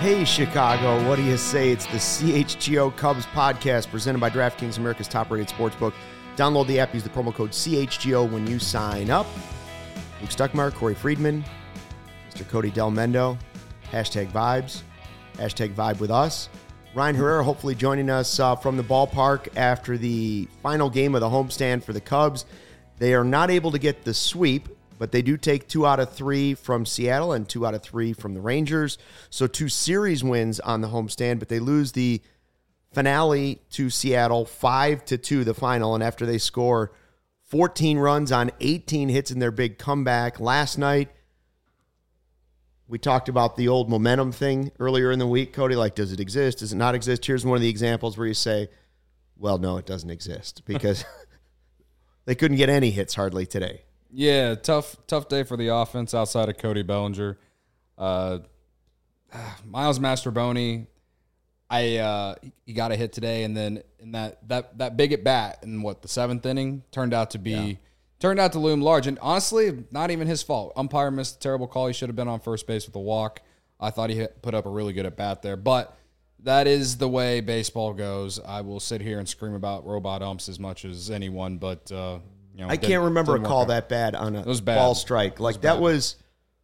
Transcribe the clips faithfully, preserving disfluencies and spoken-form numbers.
Hey, Chicago, what do you say? It's the C H G O Cubs podcast presented by DraftKings, America's top-rated sportsbook. Download the app, use the promo code C H G O when you sign up. Luke Stuckmeyer, Corey Friedman, Mister Cody Del Mendo, hashtag vibes, hashtag vibe with us. Ryan Herrera hopefully joining us uh, from the ballpark after the final game of the homestand for the Cubs. They are not able to get the sweep, but they do take two out of three from Seattle and two out of three from the Rangers. So two series wins on the homestand, but they lose the finale to Seattle five to two, the final. And after they score fourteen runs on eighteen hits in their big comeback last night, we talked about the old momentum thing earlier in the week. Cody, like, does it exist? Does it not exist? Here's one of the examples where you say, well, no, it doesn't exist because they couldn't get any hits hardly today. Yeah, tough tough day for the offense outside of Cody Bellinger. Uh, Miles Mastrobuoni, I uh, he got a hit today, and then in that that that big at bat in what the seventh inning turned out to be yeah. turned out to loom large. And honestly, not even his fault. Umpire missed a terrible call. He should have been on first base with a walk. I thought he hit, put up a really good at bat there, but that is the way baseball goes. I will sit here and scream about robot umps as much as anyone, but. Uh, You know, I can't remember a call that bad on a ball strike. Like, that was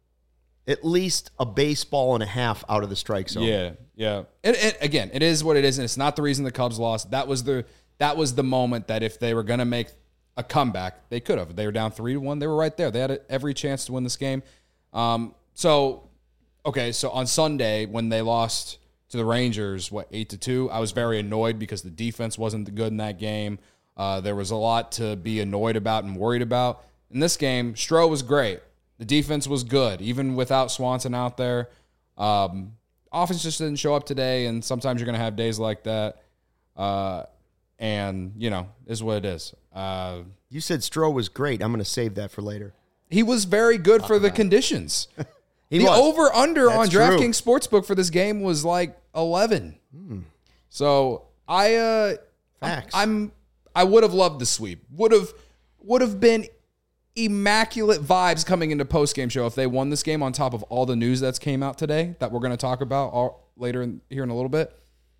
at least a baseball and a half out of the strike zone. Yeah, yeah. And, and again, it is what it is, and it's not the reason the Cubs lost. That was the that was the moment that if they were going to make a comeback, they could have. They were down three to one. They were right there. They had every chance to win this game. Um, so, okay, so on Sunday when they lost to the Rangers, what eight to two, I was very annoyed because the defense wasn't good in that game. Uh, there was a lot to be annoyed about and worried about. In this game, Stroh was great. The defense was good, even without Swanson out there. Um, offense just didn't show up today, and sometimes you're going to have days like that. Uh, and, you know, is what it is. Uh, you said Stroh was great. I'm going to save that for later. He was very good for the conditions. he the was. over-under on DraftKings Sportsbook for this game was like eleven. Hmm. So I, uh, Facts. I'm... I would have loved the sweep. Would have would have been immaculate vibes coming into post-game show if they won this game on top of all the news that's came out today that we're going to talk about all, later in, here in a little bit.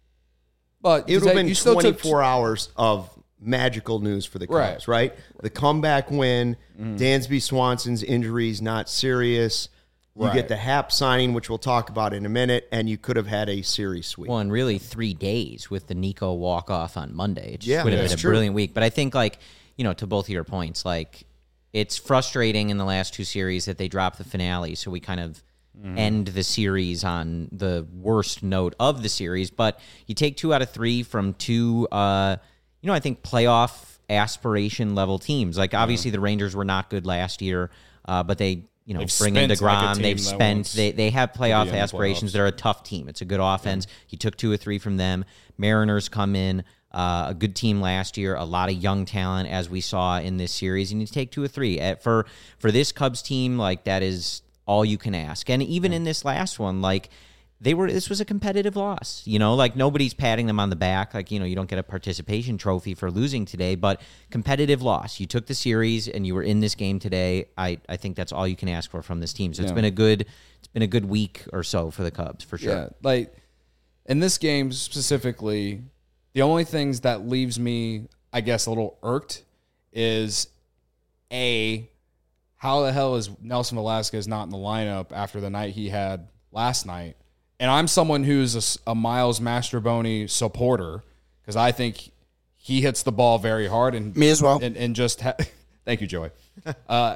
But it would have been you still twenty-four took, hours of magical news for the Cubs, right? right? The comeback win, mm-hmm. Dansby Swanson's injuries not serious. You right. get the Happ signing, which we'll talk about in a minute, and you could have had a series sweep. Well, in really three days with the Nico walk-off on Monday. It just yeah, would have been a true. brilliant week. But I think, like, you know, to both of your points, like, it's frustrating in the last two series that they dropped the finale, so we kind of mm. end the series on the worst note of the series. But you take two out of three from two, uh, you know, I think playoff aspiration-level teams. Like, obviously, yeah. the Rangers were not good last year, uh, but they... You know, they've bring in DeGrom. Like they've spent. They they have playoff aspirations. The They're a tough team. It's a good offense. Yeah. He took two or three from them. Mariners come in, uh, a good team last year. A lot of young talent, as we saw in this series. And you take two or three At, for for this Cubs team. Like, that is all you can ask. And even yeah. in this last one, like. They were. This was a competitive loss, you know. Like, nobody's patting them on the back. Like, you know, you don't get a participation trophy for losing today, but competitive loss. You took the series and you were in this game today. I, I think that's all you can ask for from this team. So yeah. it's been a good, it's been a good week or so for the Cubs for sure. Yeah, like in this game specifically, the only things that leaves me, I guess, a little irked is a how the hell is Nelson Velasquez not in the lineup after the night he had last night. And I'm someone who's a, a Miles Mastrobuoni supporter because I think he hits the ball very hard. And me as well. And, and just ha- thank you, Joey. Uh,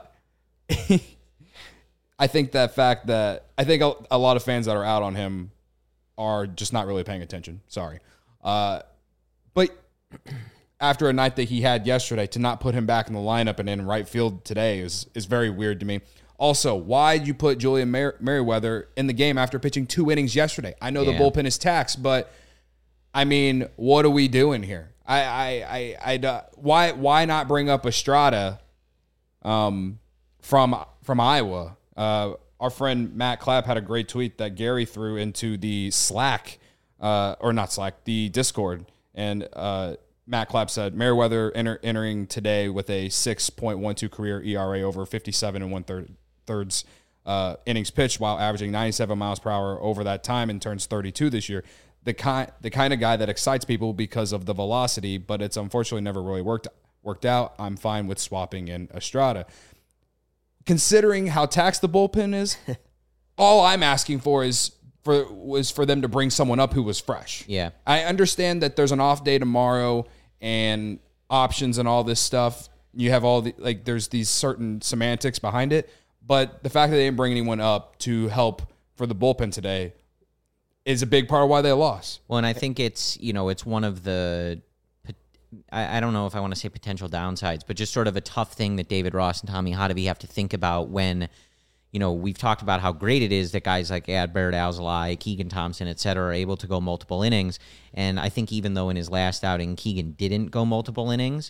I think that fact that I think a, a lot of fans that are out on him are just not really paying attention. Sorry, uh, but after a night that he had yesterday, to not put him back in the lineup and in right field today is is very weird to me. Also, why did you put Julian Mer- Merryweather in the game after pitching two innings yesterday? I know yeah. the bullpen is taxed, but I mean, what are we doing here? I, I, I, I, uh, why, why not bring up Estrada, um, from from Iowa? Uh, our friend Matt Clapp had a great tweet that Gary threw into the Slack, uh, or not Slack, the Discord, and uh, Matt Clapp said Merryweather enter, entering today with a six point one two career E R A over fifty-seven and one third. thirds uh, innings pitched while averaging ninety-seven miles per hour over that time and turns thirty-two this year. The kind the kind of guy that excites people because of the velocity, but it's unfortunately never really worked worked out. I'm fine with swapping in Estrada. Considering how taxed the bullpen is, all I'm asking for is for was for them to bring someone up who was fresh. Yeah. I understand that there's an off day tomorrow and options and all this stuff. You have all the like there's these certain semantics behind it, but the fact that they didn't bring anyone up to help for the bullpen today is a big part of why they lost. Well, and I think it's, you know, it's one of the, I, I don't know if I want to say potential downsides, but just sort of a tough thing that David Ross and Tommy Hotovy have to think about when, you know, we've talked about how great it is that guys like Adbert Alzolay, Keegan Thompson, et cetera, are able to go multiple innings. And I think even though in his last outing, Keegan didn't go multiple innings,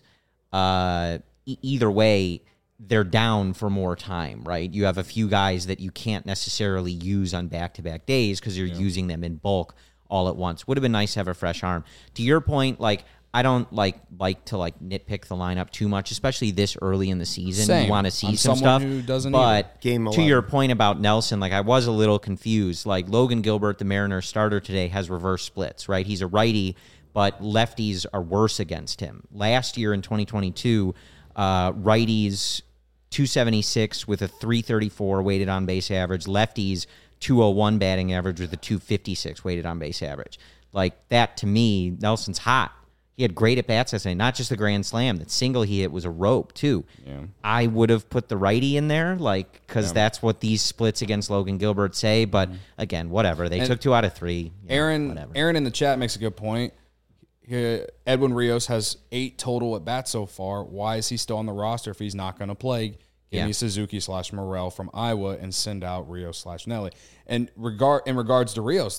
uh, e- either way, they're down for more time, right? You have a few guys that you can't necessarily use on back-to-back days because you're yeah. using them in bulk all at once. Would have been nice to have a fresh arm. To your point, like, I don't like like to like nitpick the lineup too much, especially this early in the season. Same. You want to see I'm some stuff. Who doesn't but Game to your point about Nelson, like I was a little confused. Like Logan Gilbert, the Mariners starter today, has reverse splits, right? He's a righty, but lefties are worse against him. Last year in twenty twenty-two, uh, righties two seventy-six with a three thirty-four weighted on base average. Lefties, two oh one batting average with a two fifty-six weighted on base average. Like that to me, Nelson's hot. He had great at-bats last night, not just the grand slam. That single he hit was a rope, too. Yeah. I would have put the righty in there, like, because yeah. that's what these splits against Logan Gilbert say. But, mm-hmm. again, whatever. They and took two out of three. Aaron, know, Aaron in the chat makes a good point. Here, Edwin Rios has eight total at-bats so far. Why is he still on the roster if he's not going to play? Give yeah. me Suzuki slash Morel from Iowa and send out Rios slash Nelly. And regard in regards to Rios,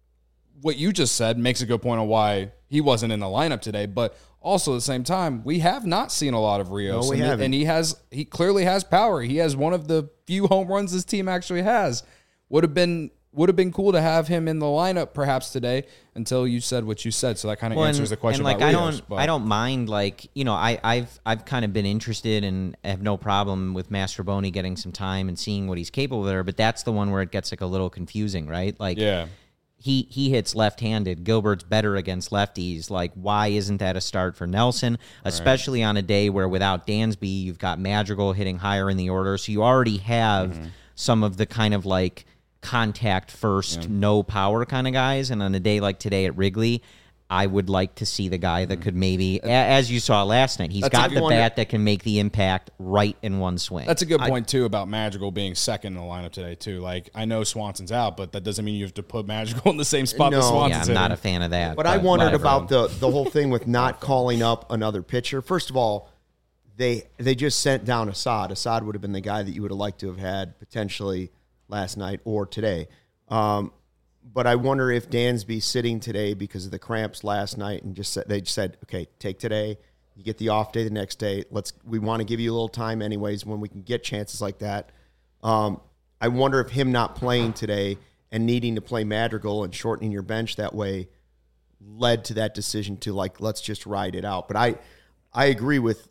what you just said makes a good point on why he wasn't in the lineup today, but also at the same time, we have not seen a lot of Rios. No, we and, haven't. and he has he clearly has power. He has one of the few home runs this team actually has. Would have been would have been cool to have him in the lineup perhaps today until you said what you said. So that kind of well, answers and, the question and like, about I Rios. Don't, but. I don't mind, like, you know, I, I've I've kind of been interested and have no problem with Mastrobuoni getting some time and seeing what he's capable of there, but that's the one where it gets like a little confusing, right? Like, yeah. He he hits left-handed. Gilbert's better against lefties. Like, why isn't that a start for Nelson? Especially right. on a day where without Dansby, you've got Madrigal hitting higher in the order. So you already have mm-hmm. some of the kind of like contact first, yeah. no power kind of guys. And on a day like today at Wrigley, I would like to see the guy that could maybe, as you saw last night, he's That's got the bat wonder. that can make the impact right in one swing. That's a good point, too, about Madrigal being second in the lineup today, too. Like, I know Swanson's out, but that doesn't mean you have to put Madrigal in the same spot no. that Swanson's Yeah, I'm in. not a fan of that. But, but I wondered whatever. about the, the whole thing with not calling up another pitcher. First of all, they they just sent down Assad. Assad would have been the guy that you would have liked to have had potentially last night or today. Um But I wonder if Dansby sitting today because of the cramps last night and just said, they just said, okay, take today. You get the off day the next day. Let's we want to give you a little time anyways when we can get chances like that. Um, I wonder if him not playing today and needing to play Madrigal and shortening your bench that way led to that decision to like let's just ride it out. But I I agree with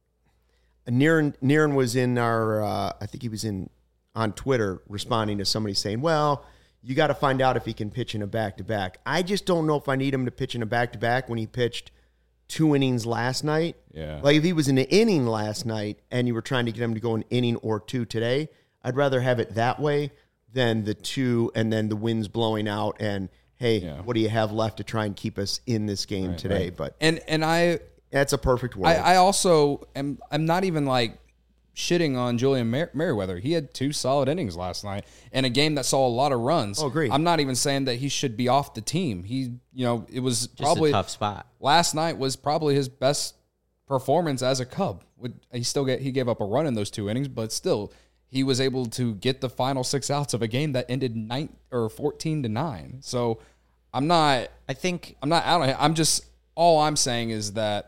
Niren. Niren was in our uh, I think he was in on Twitter responding to somebody saying, well, you got to find out if he can pitch in a back-to-back. I just don't know if I need him to pitch in a back-to-back when he pitched two innings last night. Yeah. Like if he was in an inning last night and you were trying to get him to go an inning or two today, I'd rather have it that way than the two and then the wind's blowing out and, hey, yeah. what do you have left to try and keep us in this game right, today? Right. But and and I that's a perfect world. I, I also am I'm not even like shitting on Julian Mer- Merriweather. He had two solid innings last night in a game that saw a lot of runs. Oh, great. I'm not even saying that he should be off the team. He, you know, it was Just probably a tough spot. Last night was probably his best performance as a Cub. He still get he gave up a run in those two innings, but still he was able to get the final six outs of a game that ended nine or fourteen to nine. So I'm not. I think I'm not out on it. I'm just all I'm saying is that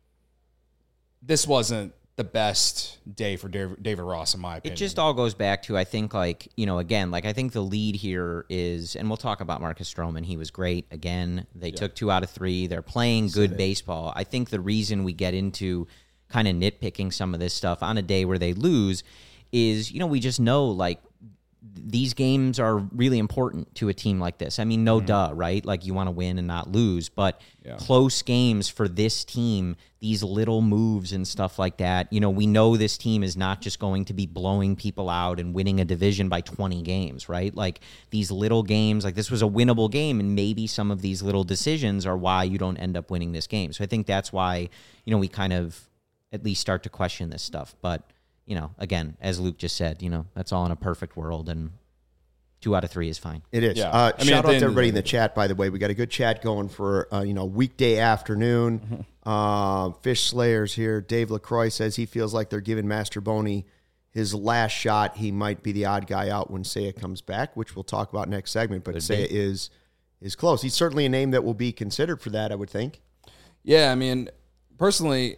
this wasn't the best day for David Ross, in my opinion. It just all goes back to, I think, like, you know, again, like, I think the lead here is, and we'll talk about Marcus Stroman. He was great. Again, they yeah. took two out of three. They're playing good baseball. I think the reason we get into kind of nitpicking some of this stuff on a day where they lose is, you know, we just know, like, these games are really important to a team like this. I mean, no mm-hmm. duh, right? Like you want to win and not lose, but yeah. close games for this team, these little moves and stuff like that. You know, we know this team is not just going to be blowing people out and winning a division by twenty games, right? Like these little games, like this was a winnable game, and maybe some of these little decisions are why you don't end up winning this game. So I think that's why, you know, we kind of at least start to question this stuff. But you know, again, as Luke just said, you know, that's all in a perfect world, and two out of three is fine. It is. Yeah. Uh, I mean, shout out to end everybody of in the chat, by the way. We got a good chat going for, uh, you know, weekday afternoon. Mm-hmm. Uh, Fish Slayers here. Dave LaCroix says he feels like they're giving Master Boney his last shot. He might be the odd guy out when Seiya comes back, which we'll talk about next segment. But Seiya is, is close. He's certainly a name that will be considered for that, I would think. Yeah, I mean, personally,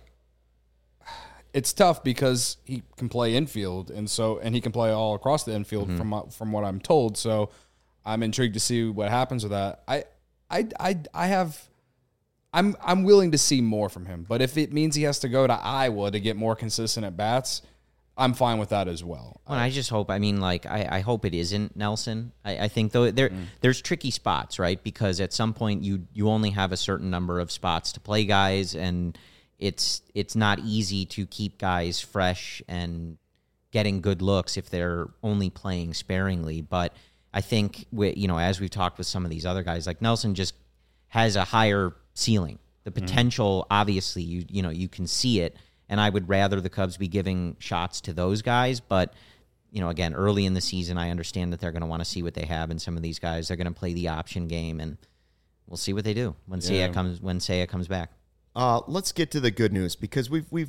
it's tough because he can play infield, and so and he can play all across the infield mm-hmm. from from what I'm told. So I'm intrigued to see what happens with that. I I I I have I'm I'm willing to see more from him, but if it means he has to go to Iowa to get more consistent at bats, I'm fine with that as well. Well, I just hope. I mean, like I, I hope it isn't Nelson. I, I think though there mm. there's tricky spots, right? Because at some point you you only have a certain number of spots to play guys, and It's it's not easy to keep guys fresh and getting good looks if they're only playing sparingly. But I think, we, you know, as we've talked with some of these other guys, like Nelson just has a higher ceiling. The potential, mm-hmm. obviously, you you know, you can see it. And I would rather the Cubs be giving shots to those guys. But, you know, again, early in the season, I understand that they're going to want to see what they have in some of these guys. They're going to play the option game, and we'll see what they do when yeah. Seiya comes when Seiya comes back. Uh, let's get to the good news, because we've we've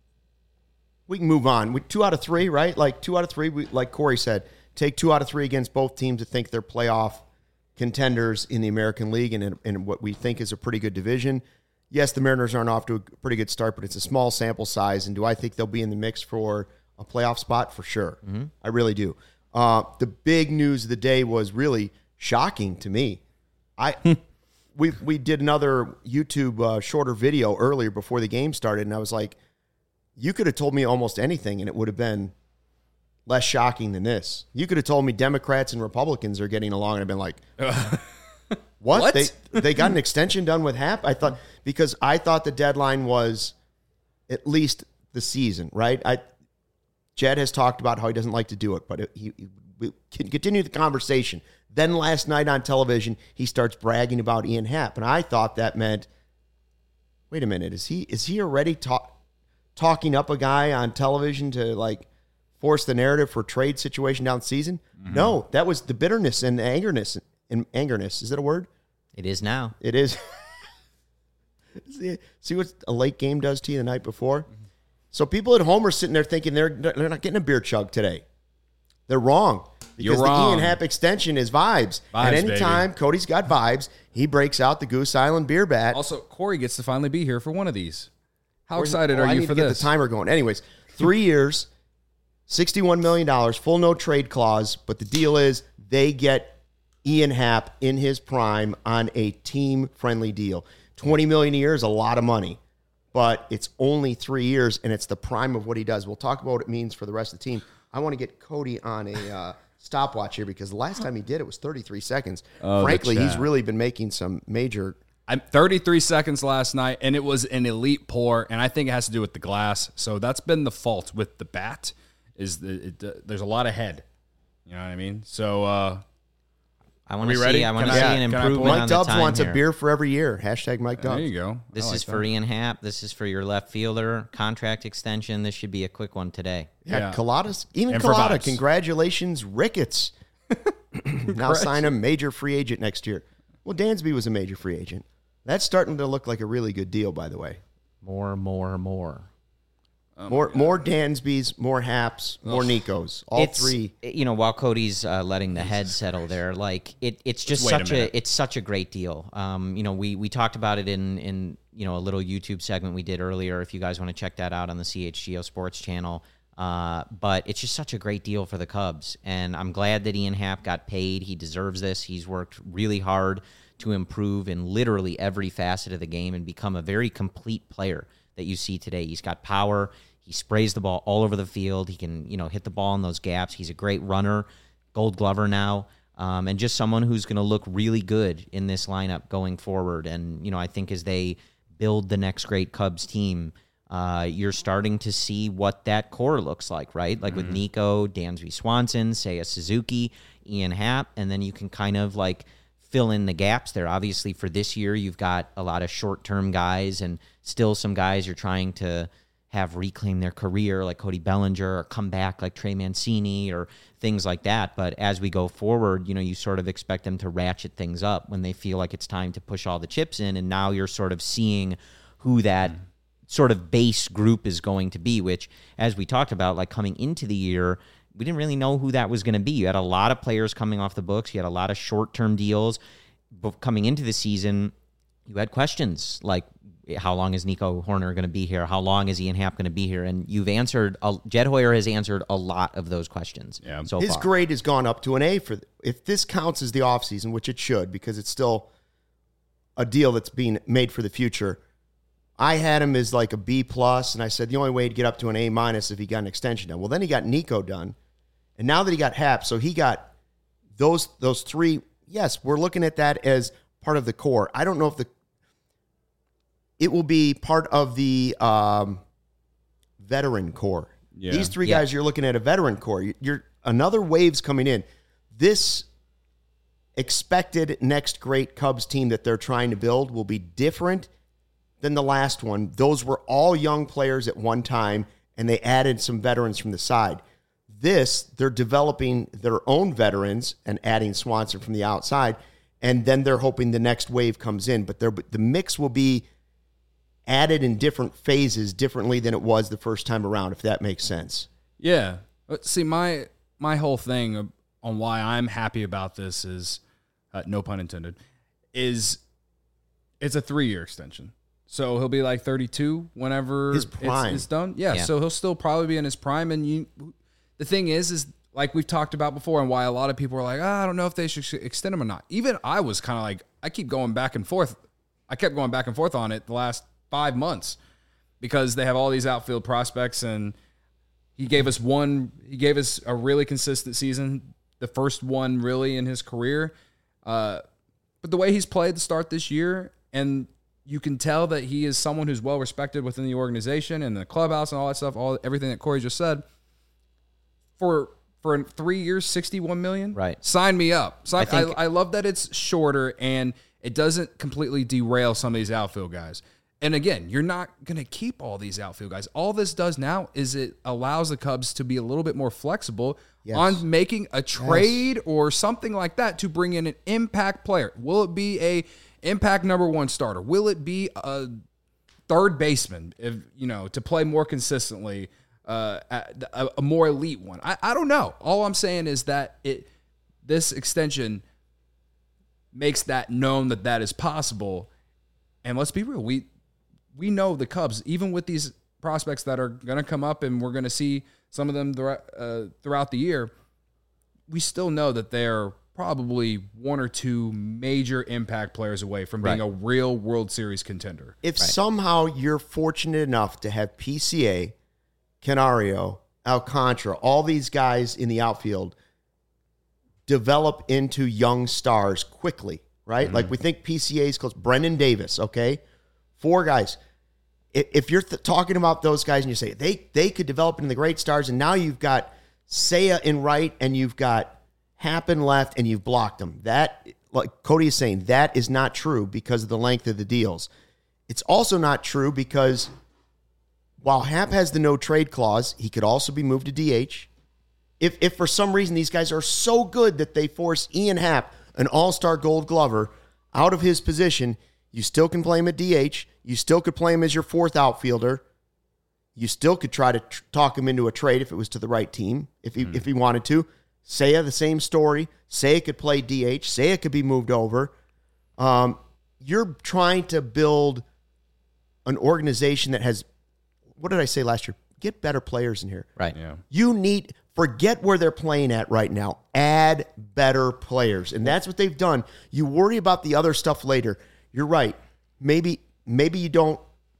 we can move on. We, two out of three, right? Like two out of three. We, like Corey said, take two out of three against both teams that think they're playoff contenders in the American League and in, in what we think is a pretty good division. Yes, the Mariners aren't off to a pretty good start, but it's a small sample size. And do I think they'll be in the mix for a playoff spot? For sure, mm-hmm. I really do. Uh, the big news of the day was really shocking to me. I. We we did another YouTube uh, shorter video earlier before the game started, and I was like, you could have told me almost anything, and it would have been less shocking than this. You could have told me Democrats and Republicans are getting along, and I've been like, what? what? They they got an extension done with Hap? I thought, because I thought the deadline was at least the season, right? I Jed has talked about how he doesn't like to do it, but it, he, he we can continue the conversation. Then last night on television, he starts bragging about Ian Happ, and I thought that meant, wait a minute, is he is he already talk, talking up a guy on television to like force the narrative for trade situation down the season? Mm-hmm. No, that was the bitterness and angerness and angerness. Is that a word? It is now. It is. see, see what a late game does to you the night before? Mm-hmm. So people at home are sitting there thinking they're they're not getting a beer chug today. They're wrong. Because You're wrong. The Ian Happ extension is vibes. Vibes, and anytime baby. Cody's got vibes, he breaks out the Goose Island beer bat. Also, Corey gets to finally be here for one of these. How Where's, excited oh, are I you need for to get this? the timer going. Anyways, three years, sixty-one million dollars, full no trade clause. But the deal is they get Ian Happ in his prime on a team-friendly deal. twenty million dollars a year is a lot of money, but it's only three years, and it's the prime of what he does. We'll talk about what it means for the rest of the team. I want to get Cody on a uh, stopwatch here, because the last time he did it was thirty-three seconds. Oh, Frankly, he's really been making some major... I'm thirty-three seconds last night, and it was an elite pour, and I think it has to do with the glass. So that's been the fault with the bat, is the, it, uh, there's a lot of head. You know what I mean? So... Uh, I want to see. ready? I want to Can see I- an can I improvement pull- on Mike the Dubs time wants here. a beer for every year. Hashtag Mike Dubs. there you go. This I like is for that. Ian Happ. This is for your left fielder contract extension. This should be a quick one today. Yeah, Yeah. Colada's, even And for Colada, vibes. congratulations, Ricketts. Now sign a major free agent next year. Well, Dansby was a major free agent. That's starting to look like a really good deal, by the way. More, more, more. Oh more more Dansbys, more Haps, more Nikos. All it's, three. You know, while Cody's uh, letting the head settle there, like it, it's just Just wait a such a, minute. it's such a great deal. Um, you know, we we talked about it in in you know a little YouTube segment we did earlier. If you guys want to check that out on the C H G O Sports channel, uh, but it's just such a great deal for the Cubs, and I'm glad that Ian Happ got paid. He deserves this. He's worked really hard to improve in literally every facet of the game and become a very complete player that you see today. He's got power. He sprays the ball all over the field. He can, you know, hit the ball in those gaps. He's a great runner. Gold Glover now, um, and just someone who's going to look really good in this lineup going forward. And, you know, I think as they build the next great Cubs team, uh, you're starting to see what that core looks like, right? Like mm-hmm. with Nico, Dansby Swanson, Seiya Suzuki, Ian Happ, and then you can kind of like fill in the gaps there. Obviously, for this year, you've got a lot of short-term guys and still some guys you're trying to have reclaim their career, like Cody Bellinger, or come back like Trey Mancini or things like that. But as we go forward, you know, you sort of expect them to ratchet things up when they feel like it's time to push all the chips in. And now you're sort of seeing who that mm. sort of base group is going to be, which, as we talked about, like coming into the year, we didn't really know who that was going to be. You had a lot of players coming off the books. You had a lot of short-term deals. But coming into the season, you had questions like, how long is Nico Hoerner going to be here? How long is Ian Happ going to be here? And you've answered, uh, Jed Hoyer has answered a lot of those questions yeah. so His far. grade has gone up to an A. For if this counts as the offseason, which it should, because it's still a deal that's being made for the future. I had him as like a B plus, and I said the only way he'd get up to an A minus if he got an extension done. Well, then he got Nico done, and now that he got Happ, so he got those those three. Yes, we're looking at that as part of the core. I don't know if the it will be part of the um, veteran core. Yeah. These three yeah. guys, you're looking at a veteran core. You're another wave's coming in. This expected next great Cubs team that they're trying to build will be different than the last one. Those were all young players at one time, and they added some veterans from the side. This, they're developing their own veterans and adding Swanson from the outside, and then they're hoping the next wave comes in. But the mix will be added in different phases differently than it was the first time around, if that makes sense. Yeah. See, my my whole thing on why I'm happy about this is, uh, no pun intended, is it's a three-year extension. So he'll be like thirty-two whenever his prime. It's, it's done. Yeah, yeah, so he'll still probably be in his prime. And you, the thing is, is like we've talked about before, and why a lot of people are like, oh, I don't know if they should extend him or not. Even I was kind of like, I keep going back and forth. I kept going back and forth on it the last five months because they have all these outfield prospects, and he gave us one, he gave us a really consistent season, the first one really in his career. Uh, but the way he's played to start this year, and you can tell that he is someone who's well respected within the organization and the clubhouse and all that stuff, all everything that Corey just said. For for three years, sixty-one million dollars, right? Sign me up. Sign, I, think, I, I love that it's shorter and it doesn't completely derail some of these outfield guys. And again, you're not going to keep all these outfield guys. All this does now is it allows the Cubs to be a little bit more flexible yes. on making a trade yes. or something like that to bring in an impact player. Will it be a impact number one starter? Will it be a third baseman, if you know, to play more consistently, uh, a, a more elite one? I, I don't know. All I'm saying is that it this extension makes that known that that is possible. And let's be real, we we know the Cubs, even with these prospects that are going to come up, and we're going to see some of them throughout, uh, throughout the year, we still know that they're probably one or two major impact players away from being right. a real World Series contender. If right. somehow you're fortunate enough to have P C A, Canario, Alcantara, all these guys in the outfield develop into young stars quickly, right? Mm-hmm. Like we think P C A's close. Brendan Davis, okay? Four guys. If you're th- talking about those guys and you say they they could develop into the great stars, and now you've got Seiya in right and you've got Happ in left and you've blocked them. That, like Cody is saying, that is not true because of the length of the deals. It's also not true because while Happ has the no trade clause, he could also be moved to D H. If if for some reason these guys are so good that they force Ian Happ, an all-star Gold Glover, out of his position, you still can play him at D H. You still could play him as your fourth outfielder. You still could try to tr- talk him into a trade if it was to the right team, if he mm. if he wanted to. Seiya, the same story. Seiya could play D H. Seiya could be moved over. Um, you're trying to build an organization that has, what did I say last year? Get better players in here. Right. Yeah. You need, forget where they're playing at right now. Add better players. And that's what they've done. You worry about the other stuff later. You're right. Maybe maybe you don't,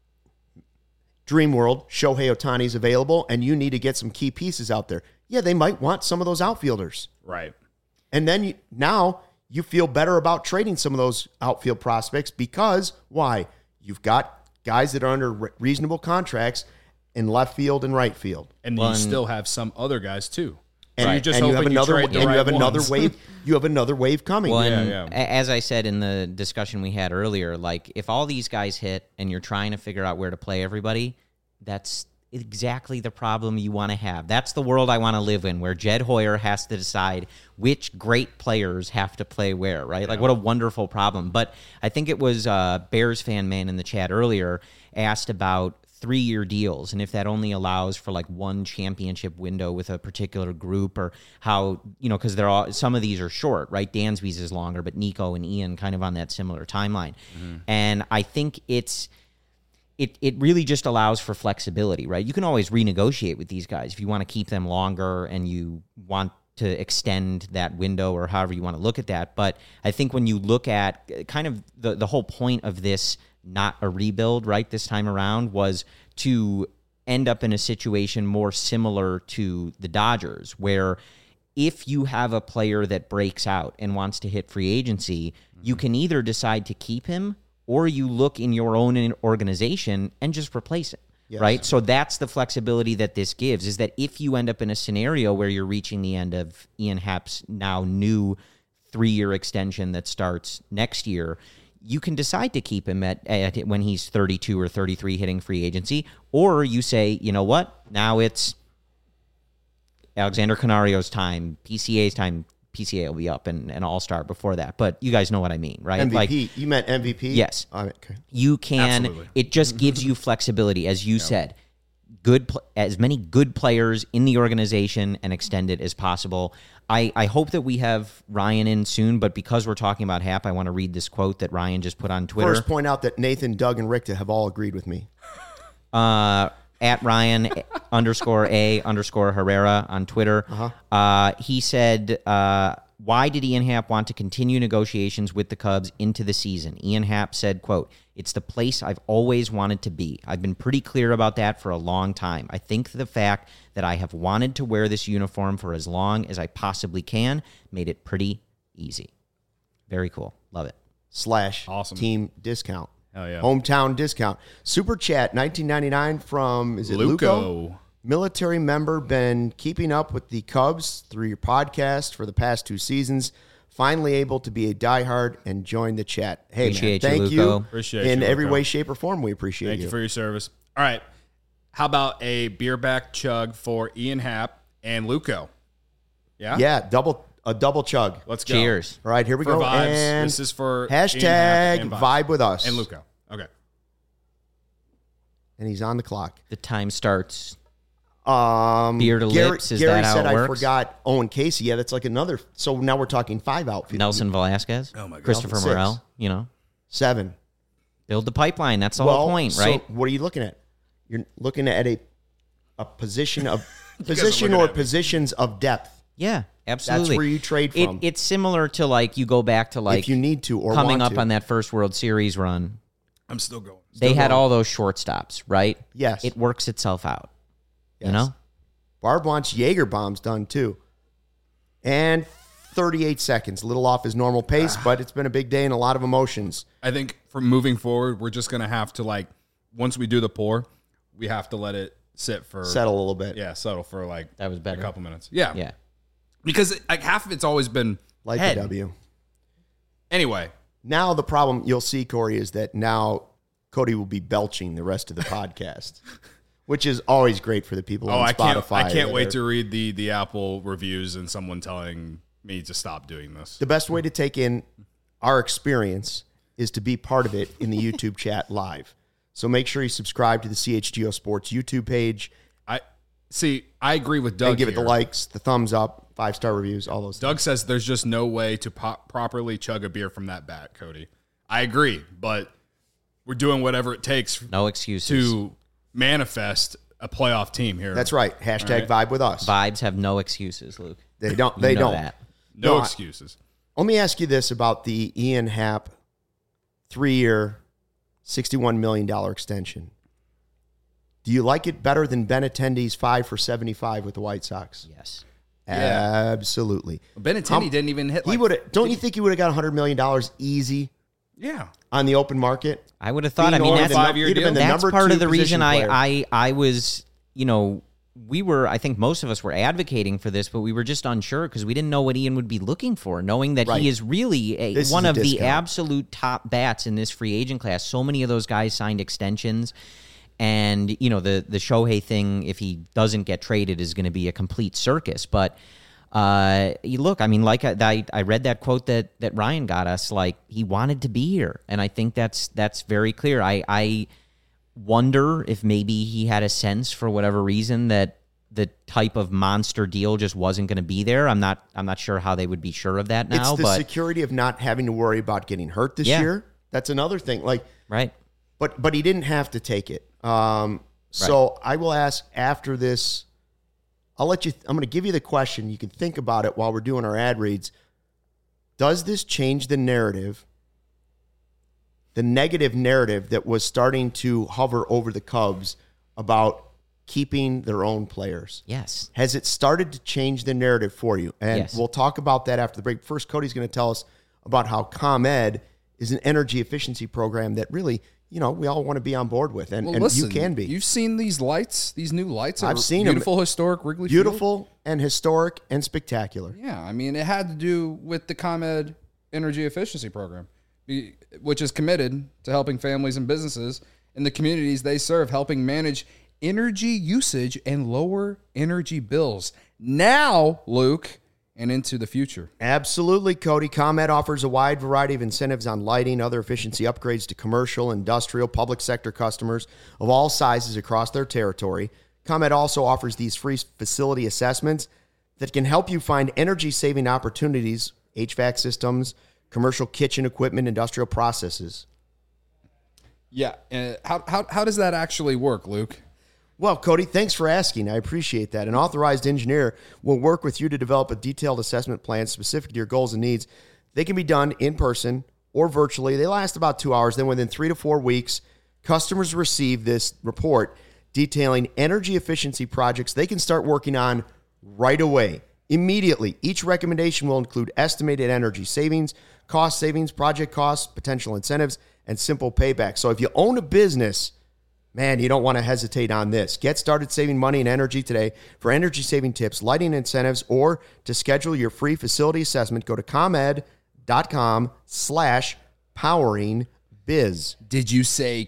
Dream World, Shohei Ohtani's available, and you need to get some key pieces out there. Yeah, they might want some of those outfielders. Right. And then you, now you feel better about trading some of those outfield prospects because, why? You've got guys that are under re- reasonable contracts in left field and right field. And Well, you and- still have some other guys too. And, So you're just and you hoping have another, trade and the you right have another ones. wave. You have another wave coming. Well, Yeah, and yeah. a- as I said in the discussion we had earlier, like if all these guys hit and you're trying to figure out where to play everybody, that's exactly the problem you want to have. That's the world I want to live in, where Jed Hoyer has to decide which great players have to play where, right? Like, what a wonderful problem. But I think it was uh, Bears fan man in the chat earlier asked about three-year deals and if that only allows for like one championship window with a particular group, or how, you know, because they're all, some of these are short, right? Dansby's is longer, but Nico and Ian kind of on that similar timeline. Mm-hmm. And I think it's it it really just allows for flexibility, right? You can always renegotiate with these guys if you want to keep them longer and you want to extend that window, or however you want to look at that. But I think when you look at kind of the the whole point of this, not a rebuild, right, this time around, was to end up in a situation more similar to the Dodgers, where if you have a player that breaks out and wants to hit free agency, mm-hmm. you can either decide to keep him or you look in your own organization and just replace it. Yes. Right? So that's the flexibility that this gives, is that if you end up in a scenario where you're reaching the end of Ian Happ's now new three-year extension that starts next year, you can decide to keep him at, at when he's thirty-two or thirty-three hitting free agency, or you say, you know what, now it's Alexander Canario's time, P C A's time. P C A will be up and an all-star before that, but you guys know what I mean, right? M V P. Like, you meant M V P? Yes. Oh, okay. You can, Absolutely. it just gives you flexibility, as you said. Good, pl- as many good players in the organization and extend it as possible. I, I hope that we have Ryan in soon, but because we're talking about Hap, I want to read this quote that Ryan just put on Twitter. First, point out that Nathan, Doug, and Richter have all agreed with me. Uh, at Ryan underscore A underscore Herrera on Twitter. Uh-huh. Uh, he said, uh, why did Ian Happ want to continue negotiations with the Cubs into the season? Ian Happ said, quote, "It's the place I've always wanted to be. I've been pretty clear about that for a long time. I think the fact that I have wanted to wear this uniform for as long as I possibly can made it pretty easy." Very cool. Love it. Slash Awesome. team discount. Hell yeah. Hometown discount. Super Chat nineteen ninety-nine from, is it Luco. Luco? Military member, been keeping up with the Cubs through your podcast for the past two seasons. Finally able to be a diehard and join the chat. Hey, Appreciate man, you, thank Luco. you. Appreciate in you, every Luco. way, shape, or form. We appreciate Thank you. you for your service. All right. How about a beer back chug for Ian Happ and Luco? Yeah? Yeah, double a double chug. Let's go. Cheers. All right, here we For go. vibes. And This is for hashtag Ian Happ and vibe with us. And Luco. Okay. And he's on the clock. The time starts. Um, Beer to Gary, lips, is Gary that how said it I works? forgot Owen Casey. Yeah, that's like another. So now we're talking five outfield. Nelson Velasquez. Oh, my God. Christopher Six. Morel. You know, Seven. build the pipeline. That's the well, whole point, so right? what are you looking at? You're looking at a a position of guys are position looking or at me. positions of depth. Yeah, absolutely. That's where you trade It, from. it's similar to like you go back to like if you need to or coming want up to. on that first World Series run. I'm still going. They had going. all those shortstops, right? Yes. It works itself out. Yes. You know? Barb wants Jaeger bombs done too. And thirty-eight seconds, a little off his normal pace, but it's been a big day and a lot of emotions. I think from moving forward, we're just going to have to, like, once we do the pour, we have to let it sit for. Settle a little bit. Yeah, settle for, like, That was a better. couple minutes. Yeah. Yeah. Because, like, half of it's always been Like head. the W. Anyway. Now the problem you'll see, Corey, is that now Cody will be belching the rest of the podcast, which is always great for the people Oh, on I can't! Spotify. I can't that wait are- to read the the Apple reviews and someone telling me to stop doing this. The best way to take in our experience is to be part of it in the YouTube chat live. So make sure you subscribe to the C H G O Sports YouTube page I see. I agree with Doug. and give it the here. likes, the thumbs up, five star reviews, all those. Doug says there's just no way to pop, properly chug a beer from that bat, Cody. I agree, but we're doing whatever it takes No excuses. to manifest a playoff team here. That's right. Hashtag All vibe with us. Vibes have no excuses, Luke. They don't. You They know don't. that. No No, I- excuses. Let me ask you this about the Ian Happ three-year, sixty-one million dollars extension. Do you like it better than Ben Attendee's five for seventy-five with the White Sox? Yes. Yeah. Absolutely. Benintendi didn't even hit. Like, he would. Don't you think he would have got one hundred million dollars easy? Yeah. On the open market? I would have thought. Being I mean, on that's, a five-year deal. deal. that's part of the reason I, I, I was, you know, we were, I think most of us were advocating for this, but we were just unsure because we didn't know what Ian would be looking for, knowing that Right. he is really a, This one is a of the discount. absolute top bats in this free agent class. So many of those guys signed extensions. And, you know, the, the Shohei thing, if he doesn't get traded, is going to be a complete circus. But uh, you look, I mean, like I, I read that quote that, that Ryan got us, like he wanted to be here. And I think that's that's very clear. I, I wonder if maybe he had a sense for whatever reason that the type of monster deal just wasn't going to be there. I'm not I'm not sure how they would be sure of that now. It's the but, security of not having to worry about getting hurt this Yeah. year. That's another thing. Like, right. But but he didn't have to take it. Um, so I will ask after this. I'll let you. I'm going to give you the question. You can think about it while we're doing our ad reads. Does this change the narrative, the negative narrative that was starting to hover over the Cubs about keeping their own players? Yes. Has it started to change the narrative for you? And Yes. we'll talk about that after the break. First, Cody's going to tell us about how ComEd is an energy efficiency program that really, you know, we all want to be on board with, and, Well, and listen, you can be. You've seen these lights, these new lights. I've at seen 'em. beautiful, historic Wrigley Field. Beautiful and historic and spectacular. Yeah, I mean, it had to do with the ComEd Energy Efficiency Program, be- which is committed to helping families and businesses in the communities they serve, helping manage energy usage and lower energy bills. Now, Luke, and into the future. Absolutely, Cody. ComEd offers a wide variety of incentives on lighting, other efficiency upgrades to commercial, industrial, public sector customers of all sizes across their territory. ComEd also offers these free facility assessments that can help you find energy-saving opportunities, H V A C systems, commercial kitchen equipment, industrial processes. Yeah, uh, how, how, how does that actually work, Luke? Well, Cody, thanks for asking. I appreciate that. An authorized engineer will work with you to develop a detailed assessment plan specific to your goals and needs. They can be done in person or virtually. They last about two hours. Then within three to four weeks, customers receive this report detailing energy efficiency projects they can start working on right away, immediately. Each recommendation will include estimated energy savings, cost savings, project costs, potential incentives, and simple payback. So if you own a business, man, you don't want to hesitate on this. Get started saving money and energy today. For energy-saving tips, lighting incentives, or to schedule your free facility assessment, go to ComEd.com slash powering biz. Did you say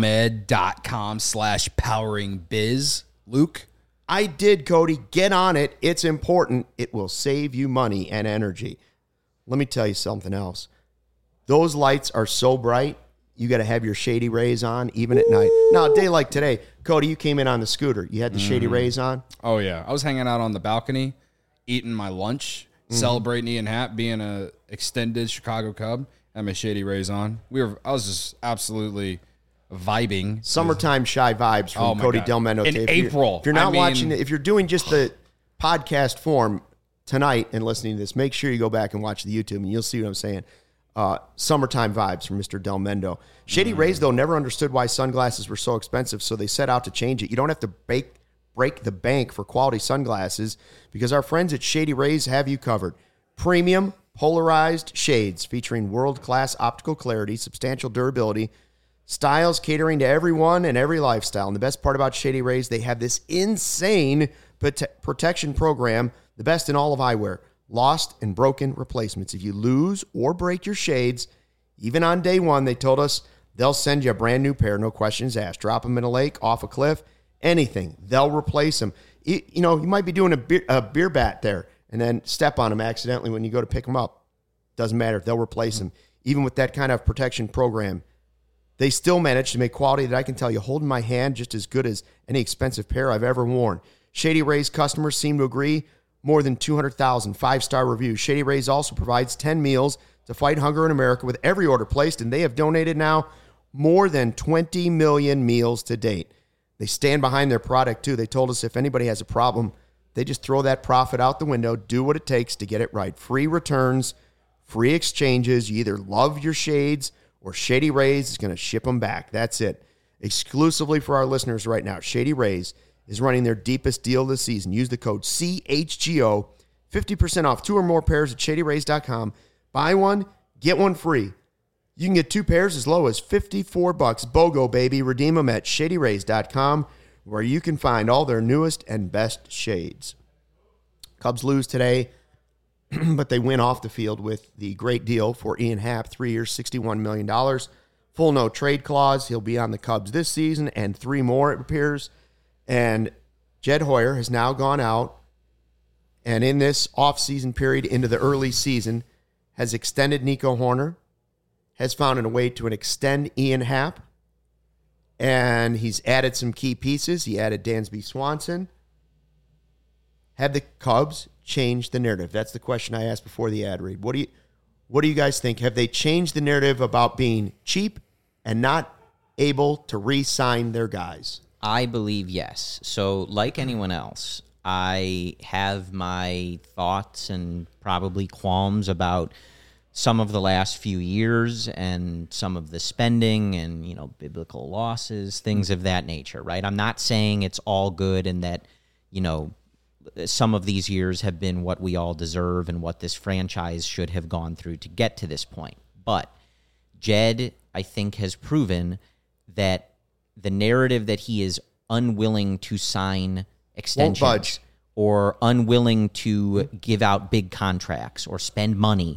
ComEd.com slash powering biz, Luke? I did, Cody. Get on it. It's important. It will save you money and energy. Let me tell you something else. Those lights are so bright, you got to have your Shady Rays on, even at night. Now, a day like today, Cody, you came in on the scooter. You had the Shady Rays on? Oh, yeah. I was hanging out on the balcony, eating my lunch, mm-hmm. celebrating Ian Happ being a extended Chicago Cub, and my Shady Rays on. We were. I was just absolutely vibing. Summertime shy vibes from Oh, my Cody God. Del Mendo. In If April. You're, if you're not I mean- watching it, if you're doing just the podcast form tonight and listening to this, make sure you go back and watch the YouTube, and you'll see what I'm saying. Uh, summertime vibes from Mister Del Mendo. Shady mm. Rays, though, never understood why sunglasses were so expensive, so they set out to change it. You don't have to bake, break the bank for quality sunglasses because our friends at Shady Rays have you covered. Premium, polarized shades featuring world-class optical clarity, substantial durability, styles catering to everyone and every lifestyle. And the best part about Shady Rays, they have this insane prote- protection program, the best in all of eyewear. Lost and broken replacements. If you lose or break your shades, even on day one, they told us they'll send you a brand new pair, no questions asked. Drop them in a lake, off a cliff, anything. They'll replace them. You, you know, you might be doing a beer, a beer bat there and then step on them accidentally when you go to pick them up. Doesn't matter. They'll replace them. Even with that kind of protection program, they still manage to make quality that I can tell you, holding my hand, just as good as any expensive pair I've ever worn. Shady Rays customers seem to agree. More than two hundred thousand five-star reviews. Shady Rays also provides ten meals to fight hunger in America with every order placed, and they have donated now more than twenty million meals to date. They stand behind their product, too. They told us if anybody has a problem, they just throw that profit out the window, do what it takes to get it right. Free returns, free exchanges. You either love your shades or Shady Rays is going to ship them back. That's it. Exclusively for our listeners right now, Shady Rays is running their deepest deal this season. Use the code C H G O fifty percent off two or more pairs at shady rays dot com. Buy one, get one free. You can get two pairs as low as fifty-four bucks. BOGO, baby. Redeem them at shady rays dot com, where you can find all their newest and best shades. Cubs lose today, but they win off the field with the great deal for Ian Happ, three years, sixty-one million dollars. Full no trade clause. He'll be on the Cubs this season and three more, it appears. And Jed Hoyer has now gone out and in this offseason period into the early season has extended Nico Hoerner, has found a way to extend Ian Happ, and he's added some key pieces. He added Dansby Swanson. Have the Cubs changed the narrative? That's the question I asked before the ad read. What do you what do you guys think? Have they changed the narrative about being cheap and not able to re-sign their guys? I believe yes. So like anyone else, I have my thoughts and probably qualms about some of the last few years and some of the spending and, you know, biblical losses, things of that nature, right? I'm not saying it's all good and that, you know, some of these years have been what we all deserve and what this franchise should have gone through to get to this point. But Jed, I think, has proven that the narrative that he is unwilling to sign extensions or unwilling to give out big contracts or spend money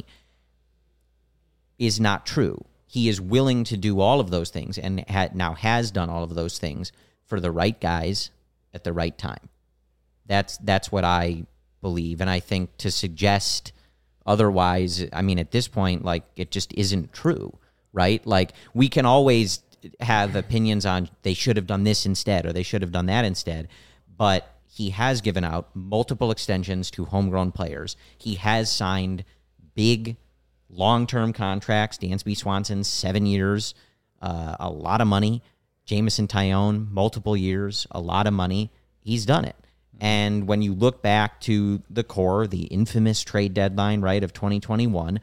is not true. He is willing to do all of those things and ha- now has done all of those things for the right guys at the right time. That's that's what I believe. And I think to suggest otherwise, I mean, at this point, like, it just isn't true, right? Like, we can always have opinions on they should have done this instead or they should have done that instead, but he has given out multiple extensions to homegrown players. He has signed big long-term contracts. Dansby Swanson, seven years, uh, a lot of money. Jameson Taillon, multiple years, a lot of money. He's done it. And when you look back to the core, the infamous trade deadline, right, of twenty twenty-one,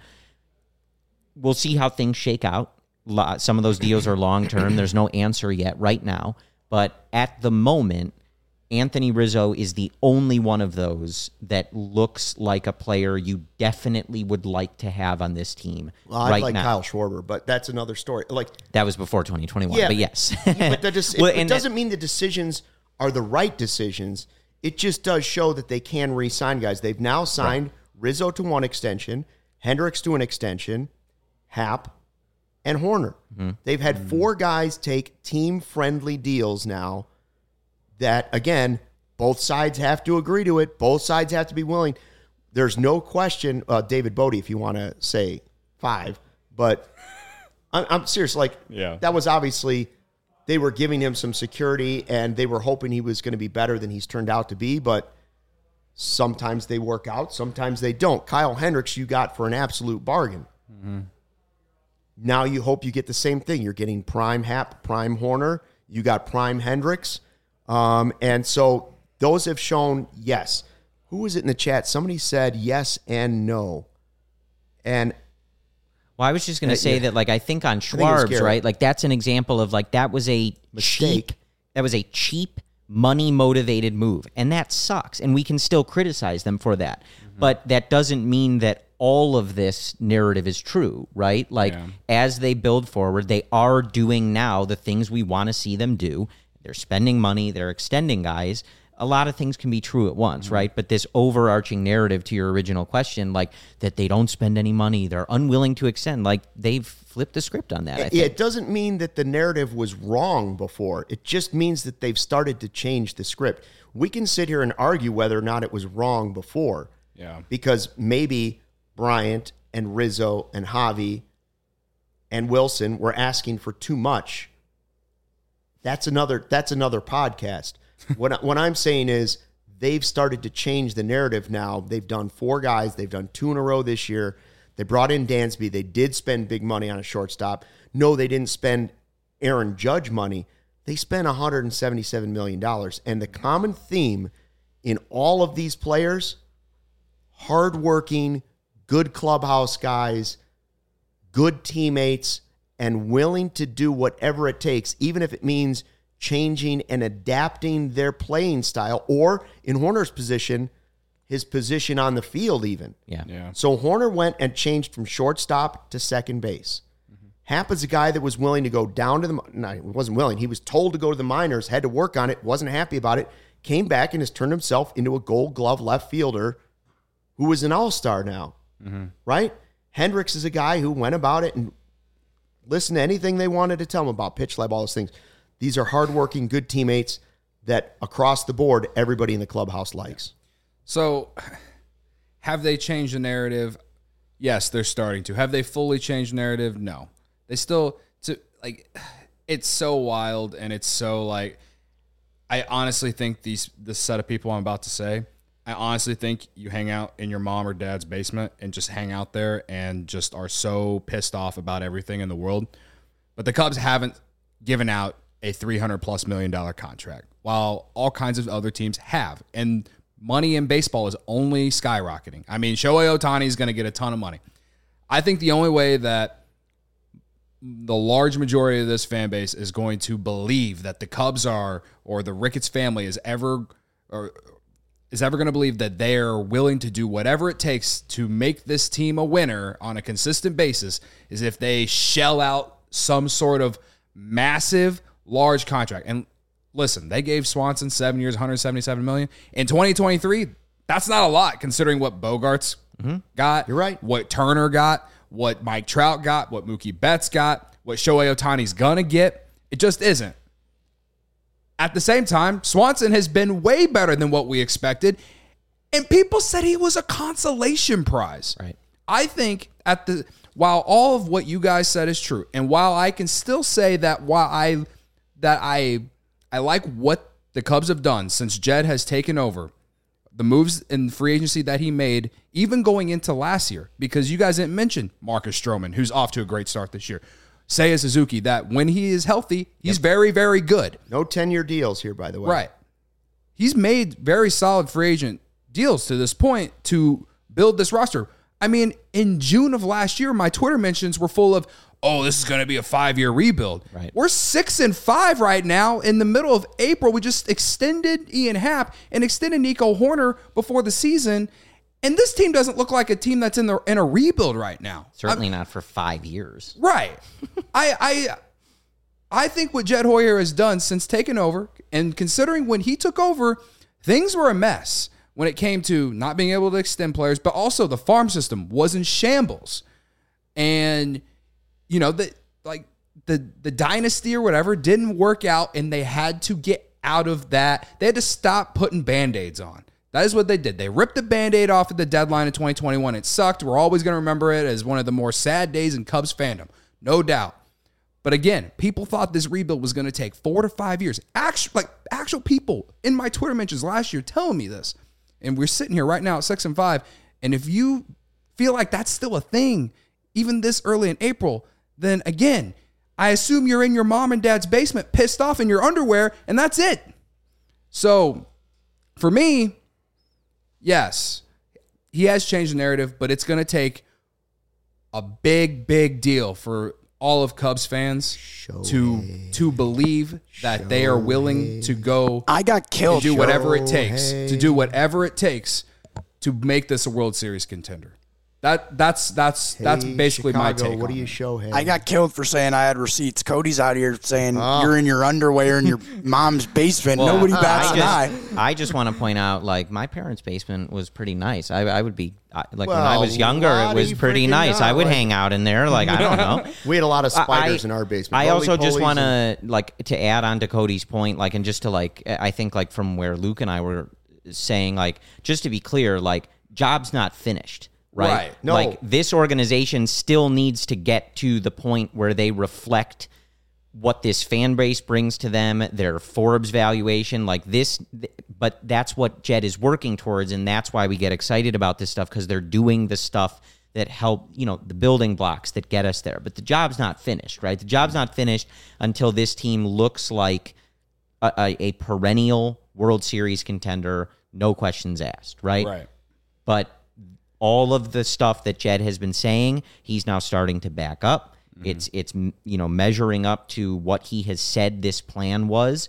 we'll see how things shake out. Some of those deals are long-term. There's no answer yet right now. But at the moment, Anthony Rizzo is the only one of those that looks like a player you definitely would like to have on this team well, I right like now. Kyle Schwarber, but that's another story. Like that was before twenty twenty-one, yeah, but yes. but that just, well, it, it doesn't that, mean the decisions are the right decisions. It just does show that they can re-sign guys. They've now signed right. Rizzo to one extension, Hendricks to an extension, Happ, and Hoerner. Mm-hmm. They've had mm-hmm. four guys take team-friendly deals now that, again, both sides have to agree to it. Both sides have to be willing. There's no question, uh, David Bodie, if you want to say five, but I'm, I'm serious. Like, yeah. that was obviously... They were giving him some security, and they were hoping he was going to be better than he's turned out to be, but sometimes they work out, sometimes they don't. Kyle Hendricks you got for an absolute bargain. Mm-hmm. Now you hope you get the same thing. You're getting prime Happ, prime Hoerner. You got prime Hendricks. Um, and so those have shown yes. Who was it in the chat? Somebody said yes and no. And Well, I was just going to say yeah. that, like, I think on Schwarb's, think right, like, that's an example of, like, that was a mistake. Cheap, that was a cheap, money-motivated move, and that sucks, and we can still criticize them for that. Mm-hmm. But that doesn't mean that all of this narrative is true, right? Like, yeah. as they build forward, they are doing now the things we want to see them do. They're spending money. They're extending guys. A lot of things can be true at once, mm-hmm. right? But this overarching narrative to your original question, like that they don't spend any money, they're unwilling to extend, like they've flipped the script on that. I think. It doesn't mean that the narrative was wrong before. It just means that they've started to change the script. We can sit here and argue whether or not it was wrong before. Yeah. Because maybe Bryant and Rizzo and Javi and Wilson were asking for too much. That's another, that's another podcast. What, what I'm saying is they've started to change the narrative now. They've done four guys. They've done two in a row this year. They brought in Dansby. They did spend big money on a shortstop. No, they didn't spend Aaron Judge money. They spent one hundred seventy-seven million dollars. And the common theme in all of these players, hardworking, good clubhouse guys, good teammates, and willing to do whatever it takes, even if it means changing and adapting their playing style, or in Hoerner's position, his position on the field even. Yeah. Yeah. So Horner went and changed from shortstop to second base. Mm-hmm. Happ is a guy that was willing to go down to the, no, he wasn't willing. He was told to go to the minors, had to work on it, wasn't happy about it, came back and has turned himself into a gold glove left fielder who is an all-star now, mm-hmm. right? Hendricks is a guy who went about it and listened to anything they wanted to tell him about pitch lab, all those things. These are hardworking, good teammates that across the board, everybody in the clubhouse likes. So have they changed the narrative? Yes, they're starting to. Have they fully changed the narrative? No. They still, to like, it's so wild and it's so like, I honestly think these this set of people I'm about to say, I honestly think you hang out in your mom or dad's basement and just hang out there and just are so pissed off about everything in the world. But the Cubs haven't given out a three hundred plus million dollar contract, while all kinds of other teams have. And money in baseball is only skyrocketing. I mean, Shohei Ohtani is going to get a ton of money. I think the only way that the large majority of this fan base is going to believe that the Cubs are, or the Ricketts family is ever, or is ever going to believe that they're willing to do whatever it takes to make this team a winner on a consistent basis is if they shell out some sort of massive, large contract. And listen, they gave Swanson seven years, one hundred seventy-seven million dollars. In twenty twenty-three, that's not a lot considering what Bogarts mm-hmm. got. You're right. What Turner got, what Mike Trout got, what Mookie Betts got, what Shohei Ohtani's going to get. It just isn't. At the same time, Swanson has been way better than what we expected, and people said he was a consolation prize. Right. I think at the while all of what you guys said is true, and while I can still say that while I that I I like what the Cubs have done since Jed has taken over, the moves in free agency that he made, even going into last year, because you guys didn't mention Marcus Stroman, who's off to a great start this year. Seiya Suzuki, that when he is healthy, he's yep. very, very good. No ten-year deals here, by the way. Right. He's made very solid free agent deals to this point to build this roster. I mean, in June of last year, my Twitter mentions were full of, oh, this is going to be a five-year rebuild. Right. We're six and five right now. In the middle of April, we just extended Ian Happ and extended Nico Horner before the season. And this team doesn't look like a team that's in the in a rebuild right now. Certainly I'm, not for five years. Right. I I I think what Jed Hoyer has done since taking over, and considering when he took over, things were a mess when it came to not being able to extend players, but also the farm system was in shambles. And, you know, the like the the dynasty or whatever didn't work out, and they had to get out of that. They had to stop putting Band-Aids on. That is what they did. They ripped the Band-Aid off at the deadline in twenty twenty-one. It sucked. We're always going to remember it as one of the more sad days in Cubs fandom. No doubt. But again, people thought this rebuild was going to take four to five years. Actual, like actual people in my Twitter mentions last year telling me this. And we're sitting here right now at six and five. And if you feel like that's still a thing, even this early in April, then again, I assume you're in your mom and dad's basement pissed off in your underwear, and that's it. So for me, yes, he has changed the narrative, but it's going to take a big, big deal for all of Cubs fans Shohei. to to believe that Shohei. they are willing to go. I got killed. To do whatever Shohei. it takes to do whatever it takes to make this a World Series contender. That that's that's hey, that's basically Chicago, my take. What on do you it. show him? I got killed for saying I had receipts. Cody's out here saying oh. you're in your underwear in your mom's basement. Well, Nobody bats I an just, eye. I just want to point out, like, my parents' basement was pretty nice. I, I would be I, like well, when I was younger, it was pretty nice. Out, I would like, hang out in there. Like, I don't know. We had a lot of spiders I, in our basement. I also just want to and- like to add on to Cody's point, like, and just to like, I think like from where Luke and I were saying, like, just to be clear, like, job's not finished. Right? Right. No. Like, this organization still needs to get to the point where they reflect what this fan base brings to them, their Forbes valuation, like this. But that's what Jed is working towards, and that's why we get excited about this stuff, because they're doing the stuff that help, you know, the building blocks that get us there. But the job's not finished, right? The job's not finished until this team looks like a, a, a perennial World Series contender, no questions asked, right? Right. But all of the stuff that Jed has been saying, he's now starting to back up. Mm-hmm. It's it's you know measuring up to what he has said this plan was,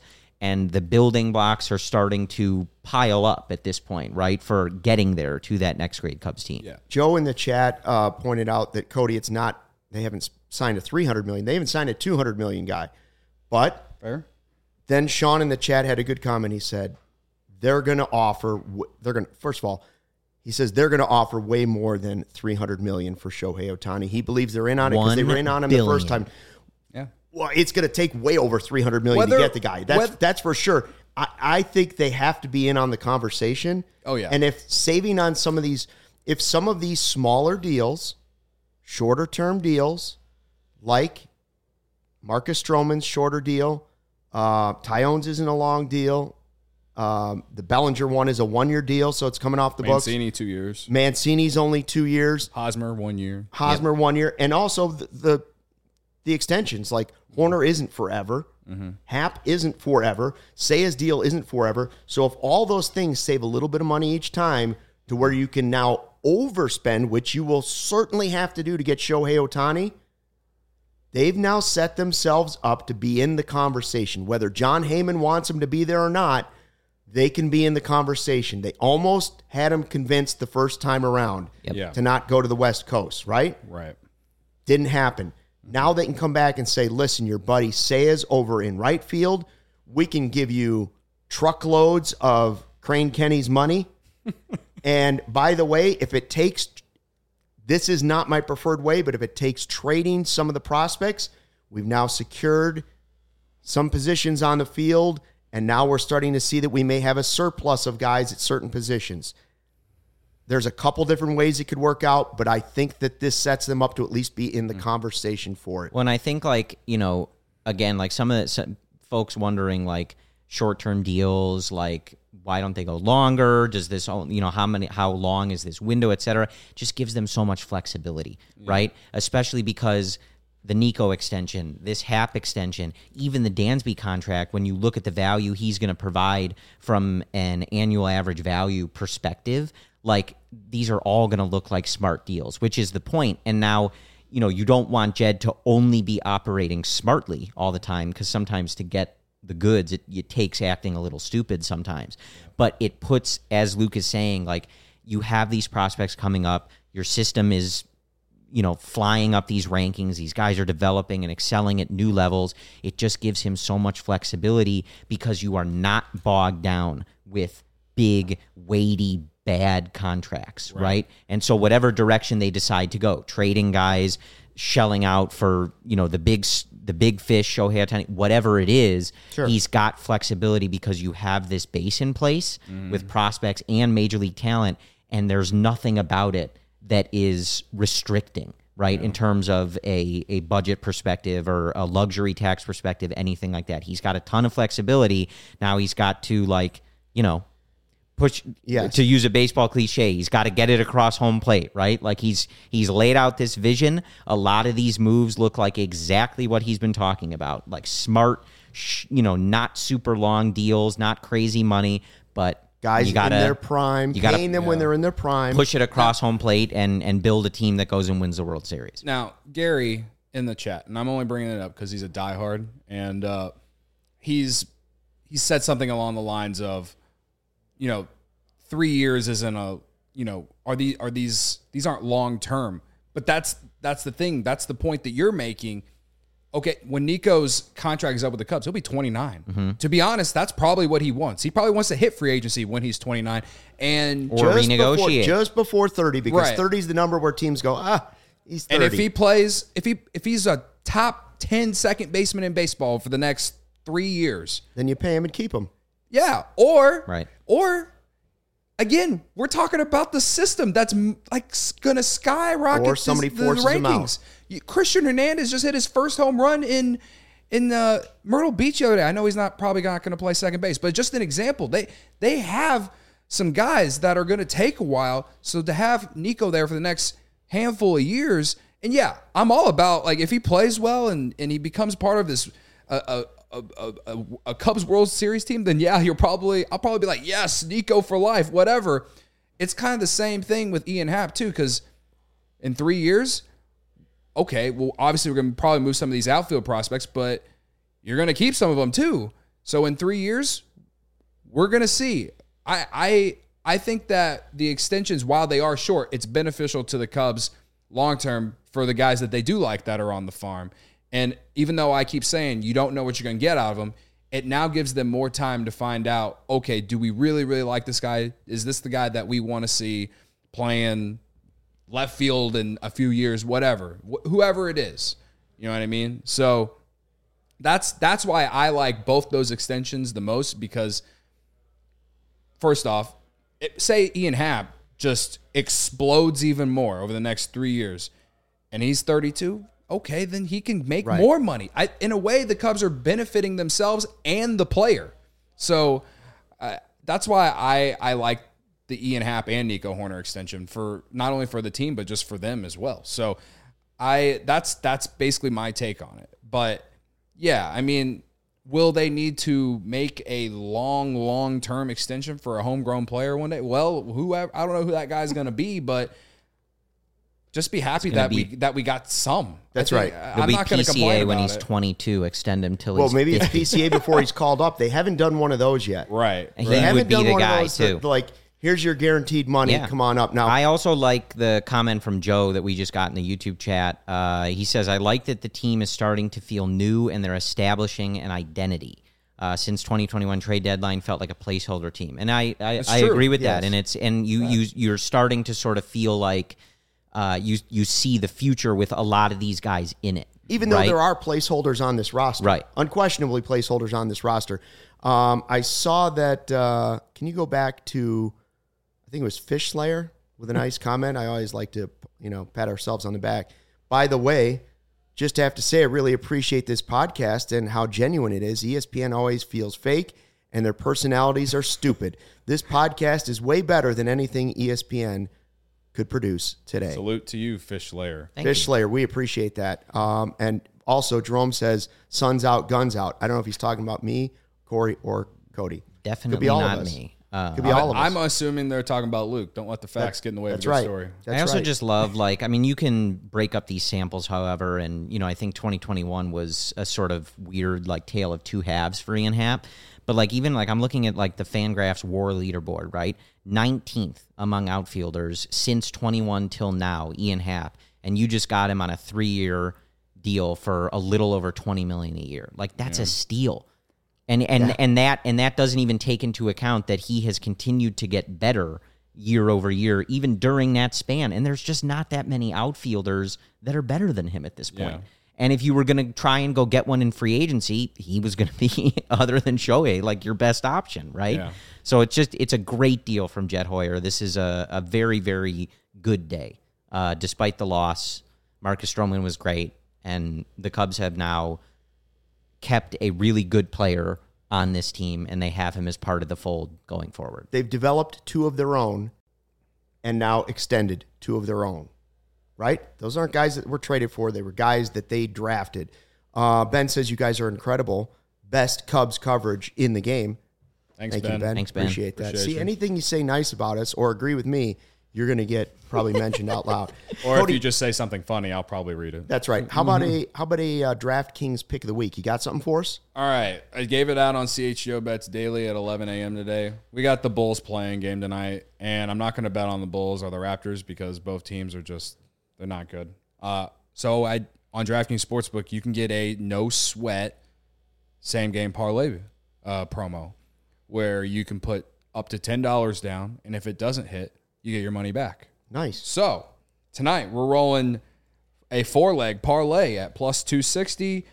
and the building blocks are starting to pile up at this point, right, for getting there to that next grade Cubs team. Yeah. Joe in the chat uh, pointed out that, Cody, it's not, they haven't signed a three hundred million dollars. They haven't signed a two hundred million dollars guy. But Fair. Then Sean in the chat had a good comment. He said, they're going to offer, they're going to, first of all, he says they're going to offer way more than three hundred million dollars for Shohei Ohtani. He believes they're in on it because they were in on him billion. the first time. Yeah. Well, it's going to take way over three hundred million dollars whether, to get the guy. That's whether, that's for sure. I, I think they have to be in on the conversation. Oh, yeah. And if saving on some of these, if some of these smaller deals, shorter term deals, like Marcus Stroman's shorter deal, uh, Tyone's isn't a long deal. Um, the Bellinger one is a one-year deal, so it's coming off the books. Mancini, two years. Mancini's only two years. Hosmer, one year. Hosmer, yep. one year. And also the, the the extensions, like Horner isn't forever. Mm-hmm. Happ isn't forever. Seiya's deal isn't forever. So if all those things save a little bit of money each time to where you can now overspend, which you will certainly have to do to get Shohei Ohtani, they've now set themselves up to be in the conversation. Whether John Heyman wants them to be there or not, they can be in the conversation. They almost had him convinced the first time around yep. yeah. to not go to the West Coast, right? Right. Didn't happen. Now they can come back and say, listen, your buddy Seiya's over in right field. We can give you truckloads of Crane Kenny's money. And by the way, if it takes, this is not my preferred way, but if it takes trading some of the prospects, we've now secured some positions on the field, and now we're starting to see that we may have a surplus of guys at certain positions. There's a couple different ways it could work out, but I think that this sets them up to at least be in the conversation for it. Well, and I think, like, you know, again, like some of the some folks wondering, like, short-term deals, like, why don't they go longer? Does this, you know, how many, how long is this window, et cetera? Just gives them so much flexibility, yeah. right? Especially because the Nico extension, this Happ extension, even the Dansby contract, when you look at the value he's going to provide from an annual average value perspective, like, these are all going to look like smart deals, which is the point. And now, you know, you don't want Jed to only be operating smartly all the time, because sometimes to get the goods, it, it takes acting a little stupid sometimes. But it puts, as Luke is saying, like, you have these prospects coming up, your system is, you know, flying up these rankings. These guys are developing and excelling at new levels. It just gives him so much flexibility because you are not bogged down with big, weighty, bad contracts, right. right? And so whatever direction they decide to go, trading guys, shelling out for, you know, the big the big fish, Shohei Ohtani, whatever it is, sure. he's got flexibility because you have this base in place mm. with prospects and major league talent, and there's nothing about it that is restricting, right, yeah. in terms of a, a budget perspective or a luxury tax perspective, anything like that. He's got a ton of flexibility. Now he's got to, like, you know, push, yes. to use a baseball cliche, he's got to get it across home plate, right? Like, he's he's laid out this vision. A lot of these moves look like exactly what he's been talking about, like smart, sh- you know, not super long deals, not crazy money, but guys you gotta, in their prime, you gotta, paying them yeah. when they're in their prime. Push it across home plate and and build a team that goes and wins the World Series. Now, Gary in the chat, and I'm only bringing it up because he's a diehard, and uh, he's he said something along the lines of, you know, three years isn't a, you know, are these are these these aren't long term. But that's that's the thing. That's the point that you're making. Okay, when Nico's contract is up with the Cubs, he'll be twenty-nine. Mm-hmm. To be honest, that's probably what he wants. He probably wants to hit free agency when he's twenty-nine. And or just renegotiate. Before, just before thirty, because right. thirty is the number where teams go, ah, he's thirty. And if he plays, if he if he's a top ten second baseman in baseball for the next three years, then you pay him and keep him. Yeah. Or, right. or again, we're talking about the system that's like going to skyrocket or somebody this, the forces rankings. him out. You, Christian Hernandez just hit his first home run in in uh, Myrtle Beach the other day. I know he's not probably not going to play second base, but just an example. They they have some guys that are going to take a while. So to have Nico there for the next handful of years, and yeah, I'm all about, like, if he plays well and, and he becomes part of this uh, a, a, a, a Cubs World Series team, then yeah, you'll probably I'll probably be like, yes, Nico for life, whatever. It's kind of the same thing with Ian Happ too, because in three years. Okay, well, obviously we're going to probably move some of these outfield prospects, but you're going to keep some of them too. So in three years, we're going to see. I, I, I think that the extensions, while they are short, it's beneficial to the Cubs long-term for the guys that they do like that are on the farm. And even though I keep saying you don't know what you're going to get out of them, it now gives them more time to find out, okay, do we really, really like this guy? Is this the guy that we want to see playing left field in a few years, whatever, wh- whoever it is? You know what I mean? So that's that's why I like both those extensions the most, because first off, it, say Ian Happ just explodes even more over the next three years and he's thirty-two, okay, then he can make right. more money. I, in a way, the Cubs are benefiting themselves and the player. So uh, that's why I, I like the Ian Happ and Nico Hoerner extension, for not only for the team, but just for them as well. So I that's that's basically my take on it. But yeah, I mean, will they need to make a long, long-term extension for a homegrown player one day? Well, whoever, I don't know who that guy's going to be, but just be happy that be, we that we got some. That's think, right. I'm not going to complain about when he's it. twenty-two, extend him till well, he's maybe fifty. it's P C A before he's called up. They haven't done one of those yet. Right. He They would haven't be done the one guy of those too. that, like, here's your guaranteed money. Yeah. Come on up now. I also like the comment from Joe that we just got in the YouTube chat. Uh, he says, I like that the team is starting to feel new and they're establishing an identity. Uh, since twenty twenty-one trade deadline felt like a placeholder team. And I I, I agree with yes. that. And it's and you, you you're starting to sort of feel like uh, you you see the future with a lot of these guys in it. Even though right? there are placeholders on this roster. Right. Unquestionably placeholders on this roster. Um, I saw that, uh, can you go back to, I think it was Fish Slayer with a nice comment. I always like to, you know, pat ourselves on the back. By the way, just have to say, I really appreciate this podcast and how genuine it is. E S P N always feels fake, and their personalities are stupid. This podcast is way better than anything E S P N could produce today. Salute to you, Fish Slayer. Thank Fish you. Slayer, we appreciate that. Um, and also, Jerome says, "Sun's out, guns out." I don't know if he's talking about me, Corey, or Cody. Definitely Could be all not of us. me. Uh, Could be all of us. I'm assuming they're talking about Luke. Don't let the facts get in the way of That's your right. story. That's I also right. just love, like, I mean, you can break up these samples, however, and, you know, I think twenty twenty-one was a sort of weird, like, tale of two halves for Ian Happ. But, like, even, like, I'm looking at, like, the Fangraphs WAR leaderboard, right? nineteenth among outfielders since twenty-one till now, Ian Happ. And you just got him on a three-year deal for a little over twenty million dollars a year. Like, that's yeah. a steal. And and, yeah. and that and that doesn't even take into account that he has continued to get better year over year, even during that span. And there's just not that many outfielders that are better than him at this point. Yeah. And if you were going to try and go get one in free agency, he was going to be, other than Shohei, like your best option, right? Yeah. So it's just, it's a great deal from Jet Hoyer. This is a, a very, very good day. Uh, despite the loss, Marcus Stroman was great, and the Cubs have now kept a really good player on this team, and they have him as part of the fold going forward. They've developed two of their own and now extended two of their own. Right? Those aren't guys that were traded for. They were guys that they drafted. Uh, Ben says you guys are incredible. Best Cubs coverage in the game. Thanks, Thank Ben. you, Ben. Thanks, Ben. Appreciate that. Appreciate See, you. anything you say nice about us or agree with me, you're going to get probably mentioned out loud. Or Cody, if you just say something funny, I'll probably read it. That's right. How about a how about a uh, DraftKings pick of the week? You got something for us? All right. I gave it out on C H G O Bets Daily at eleven a.m. today. We got the Bulls playing game tonight, and I'm not going to bet on the Bulls or the Raptors because both teams are just, they're not good. Uh, so I on DraftKings Sportsbook, you can get a no sweat same game parlay uh, promo where you can put up to ten dollars down, and if it doesn't hit, you get your money back. Nice. So tonight we're rolling a four leg parlay at plus two sixty.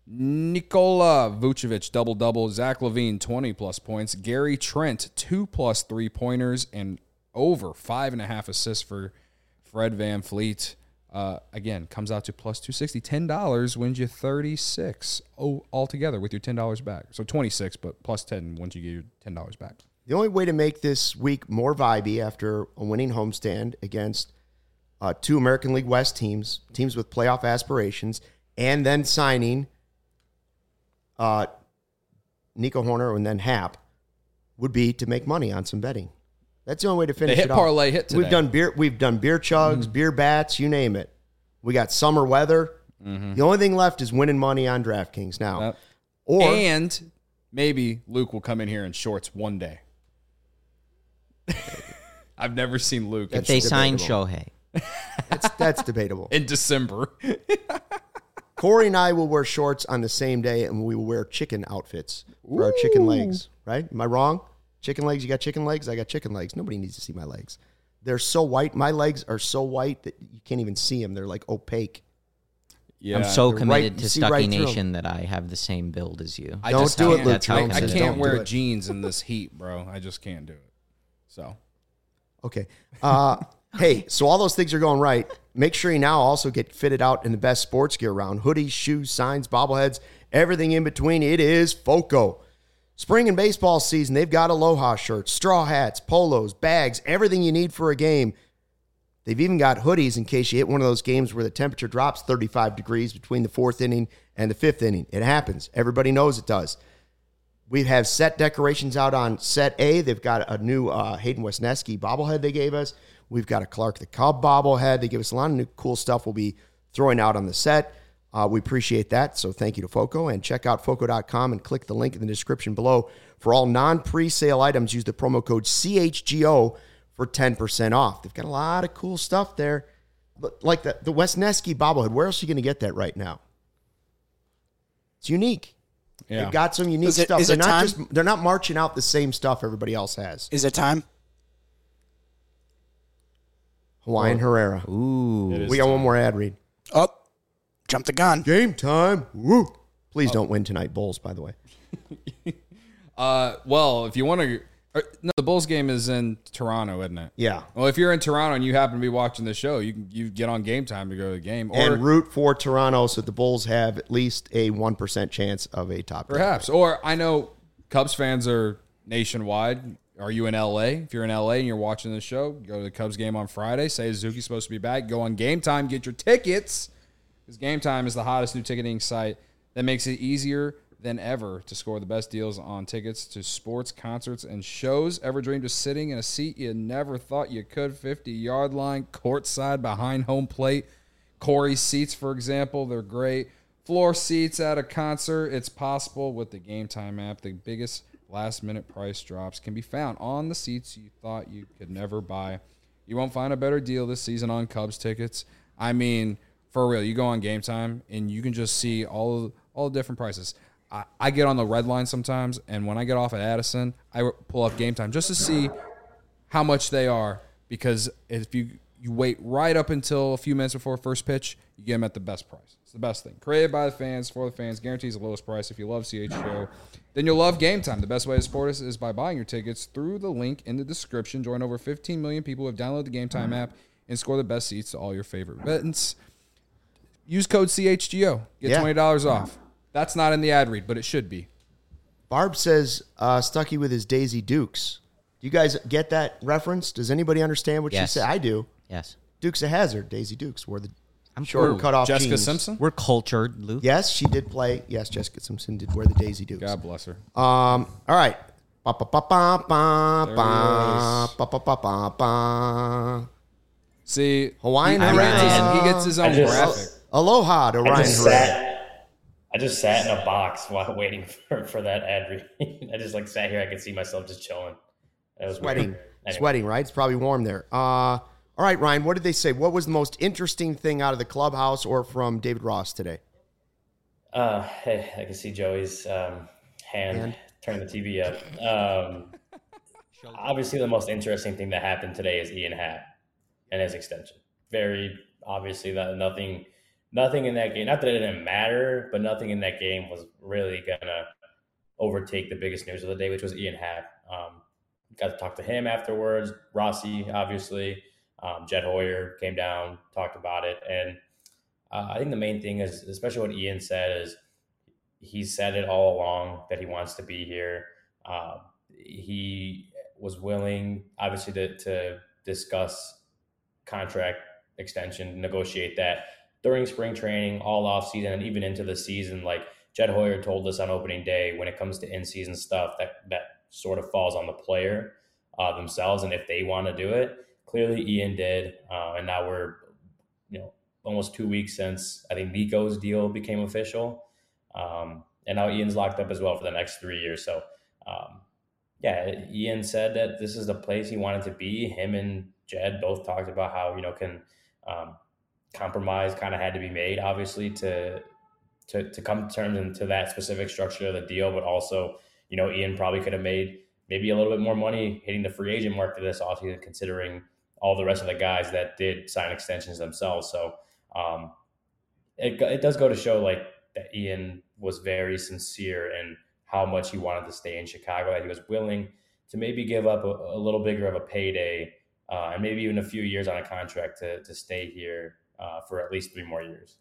Nikola Vucevic double double, Zach LaVine twenty plus points, Gary Trent two plus three pointers, and over five and a half assists for Fred VanVleet. Uh, again, comes out to plus two sixty. ten dollars wins you thirty-six oh, altogether with your ten dollars back. So twenty-six, but plus ten once you get your ten dollars back. The only way to make this week more vibey after a winning homestand against uh, two American League West teams, teams with playoff aspirations, and then signing uh, Nico Hoerner and then Happ would be to make money on some betting. That's the only way to finish the hit it off. parlay hit today. We've done beer. We've done beer chugs, mm-hmm. beer bats, you name it. We got summer weather. Mm-hmm. The only thing left is winning money on DraftKings now. Yep. Or and maybe Luke will come in here in shorts one day. I've never seen Luke. If they sign Shohei. That's, that's debatable. In December. Corey and I will wear shorts on the same day, and we will wear chicken outfits for Ooh. Our chicken legs, right? Am I wrong? Chicken legs, you got chicken legs? I got chicken legs. Nobody needs to see my legs. They're so white. My legs are so white that you can't even see them. They're like opaque. Yeah, I'm so They're committed right, to Stucky right Nation that I have the same build as you. I don't just do it, Luke. That's how I, I can't don't wear jeans in this heat, bro. I just can't do it. So, okay. Uh, hey, so all those things are going right. Make sure you now also get fitted out in the best sports gear around. Hoodies, shoes, signs, bobbleheads, everything in between. It is FOCO. Spring and baseball season, they've got Aloha shirts, straw hats, polos, bags, everything you need for a game. They've even got hoodies in case you hit one of those games where the temperature drops thirty-five degrees between the fourth inning and the fifth inning. It happens. Everybody knows it does. We have set decorations out on set A. They've got a new uh, Hayden Wesneski bobblehead they gave us. We've got a Clark the Cub bobblehead. They give us a lot of new cool stuff we'll be throwing out on the set. Uh, we appreciate that, so thank you to FOCO. And check out foco dot com and click the link in the description below. For all non-presale items, use the promo code C H G O for ten percent off. They've got a lot of cool stuff there. Like the, the Wesneski bobblehead. Where else are you going to get that right now? It's unique. Yeah. They've got some unique is it, stuff. Is they're it not time? just they're not marching out the same stuff everybody else has. Is it time? Hawaiian Herrera. Ooh. We got one more ad read. Up. Oh, jump the gun. Game time. Woo. Please oh. don't win tonight, Bulls, by the way. uh, well, if you want to... No, the Bulls game is in Toronto, isn't it? Yeah. Well, if you're in Toronto and you happen to be watching the show, you can you get on Game Time to go to the game. Or, and root for Toronto so the Bulls have at least a one percent chance of a top. Perhaps. Game. Or I know Cubs fans are nationwide. Are you in L A? If you're in L A and you're watching the show, go to the Cubs game on Friday. Say Suzuki's supposed to be back. Go on Game Time. Get your tickets. Because Game Time is the hottest new ticketing site that makes it easier than ever to score the best deals on tickets to sports, concerts, and shows. Ever dreamed of sitting in a seat you never thought you could? fifty-yard line, courtside, behind home plate. Corey seats, for example, they're great. Floor seats at a concert. It's possible with the Game Time app. The biggest last-minute price drops can be found on the seats you thought you could never buy. You won't find a better deal this season on Cubs tickets. I mean, for real, you go on Game Time, and you can just see all, all the different prices. I, I get on the red line sometimes, and when I get off at Addison, I pull up Game Time just to see how much they are, because if you, you wait right up until a few minutes before first pitch, you get them at the best price. It's the best thing. Created by the fans, for the fans, guarantees the lowest price. If you love C H G O, then you'll love Game Time. The best way to support us is by buying your tickets through the link in the description. Join over fifteen million people who have downloaded the Game Time app and score the best seats to all your favorite events. Use code C H G O. Get yeah. twenty dollars off. That's not in the ad read, but it should be. Barb says, uh, Stucky with his Daisy Dukes. Do you guys get that reference? Does anybody understand what yes. she said? I do. Yes. Dukes of Hazzard, Daisy Dukes, wore the I'm short sure. cut off Jessica jeans. Simpson? We're cultured, Luke. Yes, she did play. Yes, Jessica Simpson did wear the Daisy Dukes. God bless her. Um. All right. Ba, ba, ba, ba, ba, ba, ba, ba, ba, ba, ba. See, Hawaiian he, he, gets his, he gets his own just, graphic. Aloha to I Ryan just, Herrera. sat, I just sat in a box while waiting for, for that ad read. I just like sat here. I could see myself just chilling. It was Sweating. Anyway. Sweating, right? It's probably warm there. Uh, all right, Ryan, what did they say? What was the most interesting thing out of the clubhouse or from David Ross today? Uh, hey, I can see Joey's um, hand, hand turn the T V up. Um, obviously, the most interesting thing that happened today is Ian Happ and his extension. Very obviously that nothing, nothing in that game. Not that it didn't matter, but nothing in that game was really gonna overtake the biggest news of the day, which was Ian Happ. Um, got to talk to him afterwards. Rossi, obviously, um, Jed Hoyer came down, talked about it, and uh, I think the main thing is, especially what Ian said, is he said it all along that he wants to be here. Uh, he was willing, obviously, to, to discuss contract extension, negotiate that during spring training, all off season, and even into the season. Like Jed Hoyer told us on opening day, when it comes to in-season stuff, that that sort of falls on the player uh, themselves, and if they want to do it. Clearly, Ian did, uh, and now we're, you know, almost two weeks since I think Nico's deal became official. Um, and now Ian's locked up as well for the next three years. So, um, yeah, Ian said that this is the place he wanted to be. Him and Jed both talked about how, you know, can um, compromise kind of had to be made, obviously, to, to to come to terms into that specific structure of the deal. But also, you know, Ian probably could have made maybe a little bit more money hitting the free agent market this offseason, considering all the rest of the guys that did sign extensions themselves. So um, it, it does go to show, like, that Ian was very sincere in how much he wanted to stay in Chicago, that he was willing to maybe give up a, a little bigger of a payday uh, and maybe even a few years on a contract to to stay here uh, for at least three more years.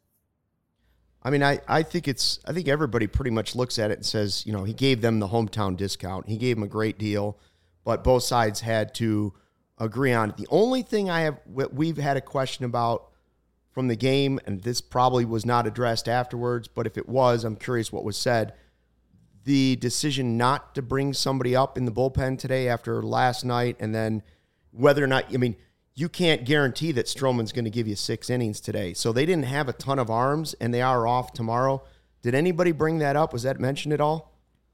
I mean, I, I think it's I think everybody pretty much looks at it and says, you know, he gave them the hometown discount. He gave them a great deal, but both sides had to agree on it. The only thing I have we've had a question about from the game, and this probably was not addressed afterwards, but if it was, I'm curious what was said. The decision not to bring somebody up in the bullpen today after last night, and then whether or not, I mean, you can't guarantee that Stroman's going to give you six innings today. So they didn't have a ton of arms, and they are off tomorrow. Did anybody bring that up? Was that mentioned at all?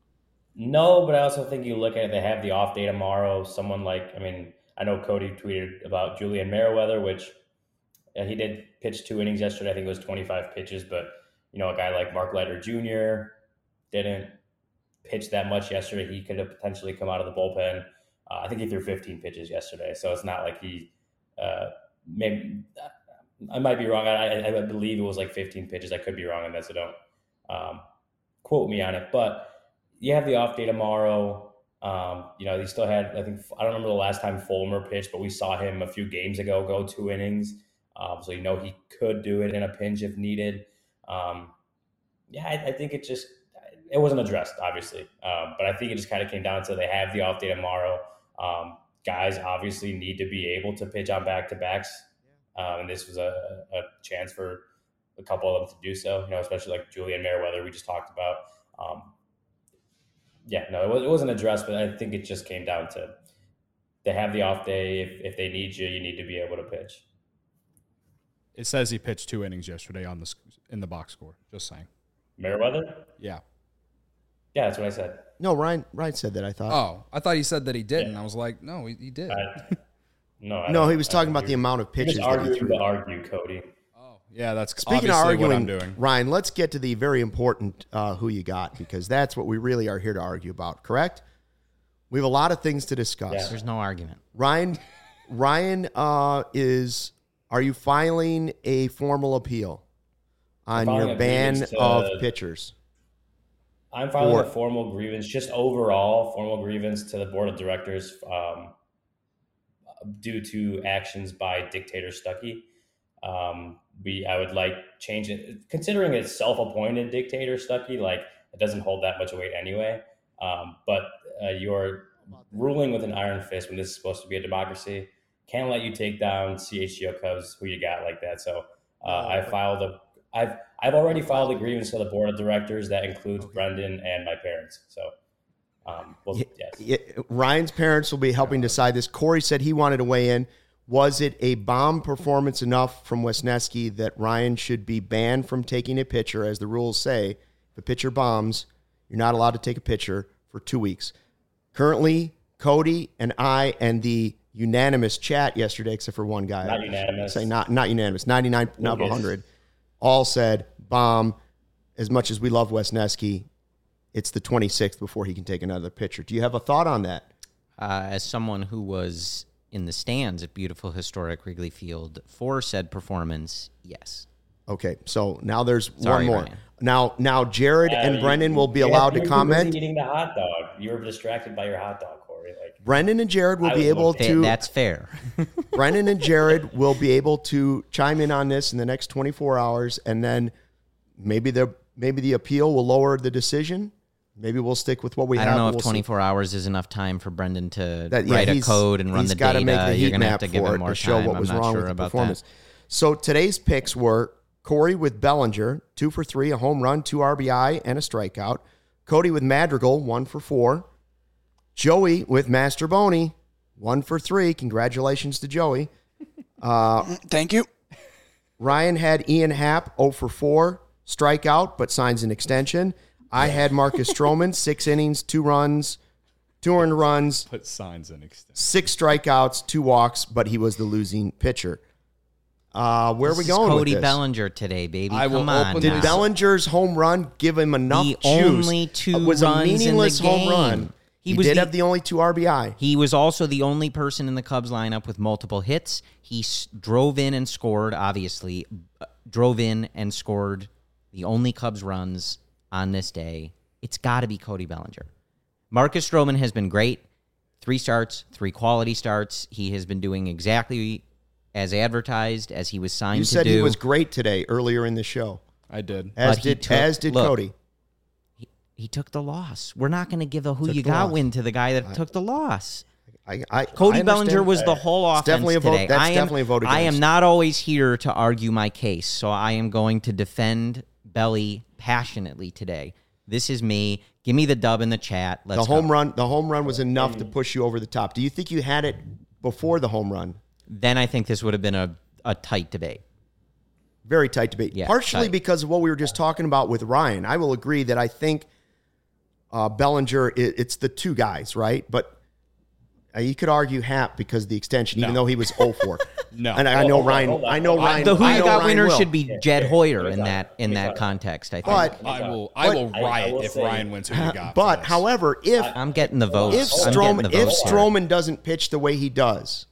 No, but I also think you look at it, they have the off day tomorrow. Someone like, I mean, I know Cody tweeted about Julian Merriweather, which yeah, he did pitch two innings yesterday. I think it was twenty-five pitches, but, you know, a guy like Mark Leiter Junior didn't pitch that much yesterday. He could have potentially come out of the bullpen. Uh, I think he threw fifteen pitches yesterday, so it's not like he uh, maybe I might be wrong. I, I believe it was like fifteen pitches. I could be wrong on that, so don't um, quote me on it. But you have the off day tomorrow. Um, you know, he still had, I think, I don't remember the last time Fulmer pitched, but we saw him a few games ago go two innings. Um, so, you know, he could do it in a pinch if needed. Um, yeah, I, I think it just, it wasn't addressed, obviously. Um, but I think it just kind of came down to they have the off day tomorrow. Um, guys obviously need to be able to pitch on back-to-backs. Um, and this was a, a chance for a couple of them to do so, you know, especially like Julian Merriweather we just talked about. Um, yeah, no, it, was, it wasn't addressed, but I think it just came down to they have the off day. If, if they need you, you need to be able to pitch. It says he pitched two innings yesterday on the in the box score. Just saying. Merriweather? Yeah. Yeah, that's what I said. No, Ryan Ryan said that, I thought. Oh, I thought he said that he didn't. Yeah. I was like, no, he, he did. I, no, I no, he was talking about the amount of pitches just that he arguing threw. to argue, Cody. Oh, yeah, that's Speaking of obviously arguing, what I'm doing. Ryan, let's get to the very important uh, who you got, because that's what we really are here to argue about, correct? We have a lot of things to discuss. Yeah. There's no argument. Ryan, Ryan uh, is, are you filing a formal appeal on filing your a ban grievance to- of pitchers? I'm filing Or- a formal grievance, just overall formal grievance to the board of directors um, due to actions by Dictator Stuckey. Um, we, I would like change it, considering it's self-appointed Dictator Stuckey, like it doesn't hold that much weight anyway. Um, but uh, you're ruling with an iron fist when this is supposed to be a democracy. Can't let you take down C H G O Cubs, who you got like that. So uh, I filed a, I've I've already filed a grievance to the board of directors that includes Brendan and my parents. So, um, well, Yeah, yes. yeah, Ryan's parents will be helping decide this. Corey said he wanted to weigh in. Was it a bomb performance enough from Wesneski that Ryan should be banned from taking a pitcher, as the rules say? If a pitcher bombs, you're not allowed to take a pitcher for two weeks. Currently, Cody and I and the unanimous chat yesterday, except for one guy. Not unanimous. Say not not unanimous. ninety-nine, not Lucas. one hundred. All said bomb. As much as we love Wesneski, it's the twenty-sixth before he can take another pitcher. Do you have a thought on that? Uh, as someone who was in the stands at beautiful historic Wrigley Field for said performance, yes. Okay, so now there's Sorry, one more. Ryan. Now, now Jared Uh, and you- Brendan will be you- allowed you to were too busy comment. Eating the hot dog. You were distracted by your hot dog, Corey. Like Brendan and Jared will I be was able looking. Th- to. that's fair. Brendan and Jared will be able to chime in on this in the next twenty-four hours, and then maybe the maybe the appeal will lower the decision. Maybe we'll stick with what we I have. don't know We'll if see. twenty-four hours is enough time for Brendan to That- yeah, write a he's- code and run he's the gotta data. make the heat You're going to have map to give for him it more to show time. what was I'm not wrong sure with the about performance. that. So today's picks were Corey with Bellinger, two for three, a home run, two R B I, and a strikeout. Cody with Madrigal, one for four. Joey with Master Boney, one for three. Congratulations to Joey. Uh, Thank you. Ryan had Ian Happ, zero for four, strikeout, but signs an extension. I had Marcus Stroman, six innings, two runs, two earned runs. Put signs in extent. Six strikeouts, two walks, but he was the losing pitcher. Uh, where this are we going Cody with this? Bellinger today, baby. I will Come on. open Did now. Bellinger's home run give him enough The juice? only two Uh, was runs a meaningless in the home game. run. He, He was did the- have the only two R B I. He was also the only person in the Cubs lineup with multiple hits. He s- drove in and scored, obviously. Uh, drove in and scored the only Cubs runs on this day. It's got to be Cody Bellinger. Marcus Stroman has been great. Three starts, three quality starts. He has been doing exactly as advertised, as he was signed You to said do. he was great today earlier in the show, I did. as But he did took- as did look, Cody. He, he took the loss. We're not going to give a who Took you the got loss. win to the guy that took the loss. I, I, Cody I Bellinger understand. was the whole offense definitely a vote- today. that's I am, definitely a vote I am against. not always here to argue my case, so I am going to defend Belly passionately today. This is me. Give me the dub in the chat. Let's the home go. run. The home run was enough to push you over the top. Do you think you had it before the home run? Then I think this would have been a, a tight debate. Very tight debate. Yeah, Partially tight. because of what we were just talking about with Ryan. I will agree that I think uh, Bellinger, it, it's the two guys, right? But uh, you could argue Happ because of the extension, even No. though he was oh for. No. And I, I Hold know on, Ryan. hold on, I know hold on. Ryan. The who I you know got Ryan winner will. should be Jed here, Hoyer here's in how- that in here's that how- context, I think. But I will. I will But- I- I riot will if say- Ryan wins who you got. for but this. however, if I'm getting the votes. if I'm getting Stroman the if votes here. Stroman doesn't pitch the way he does,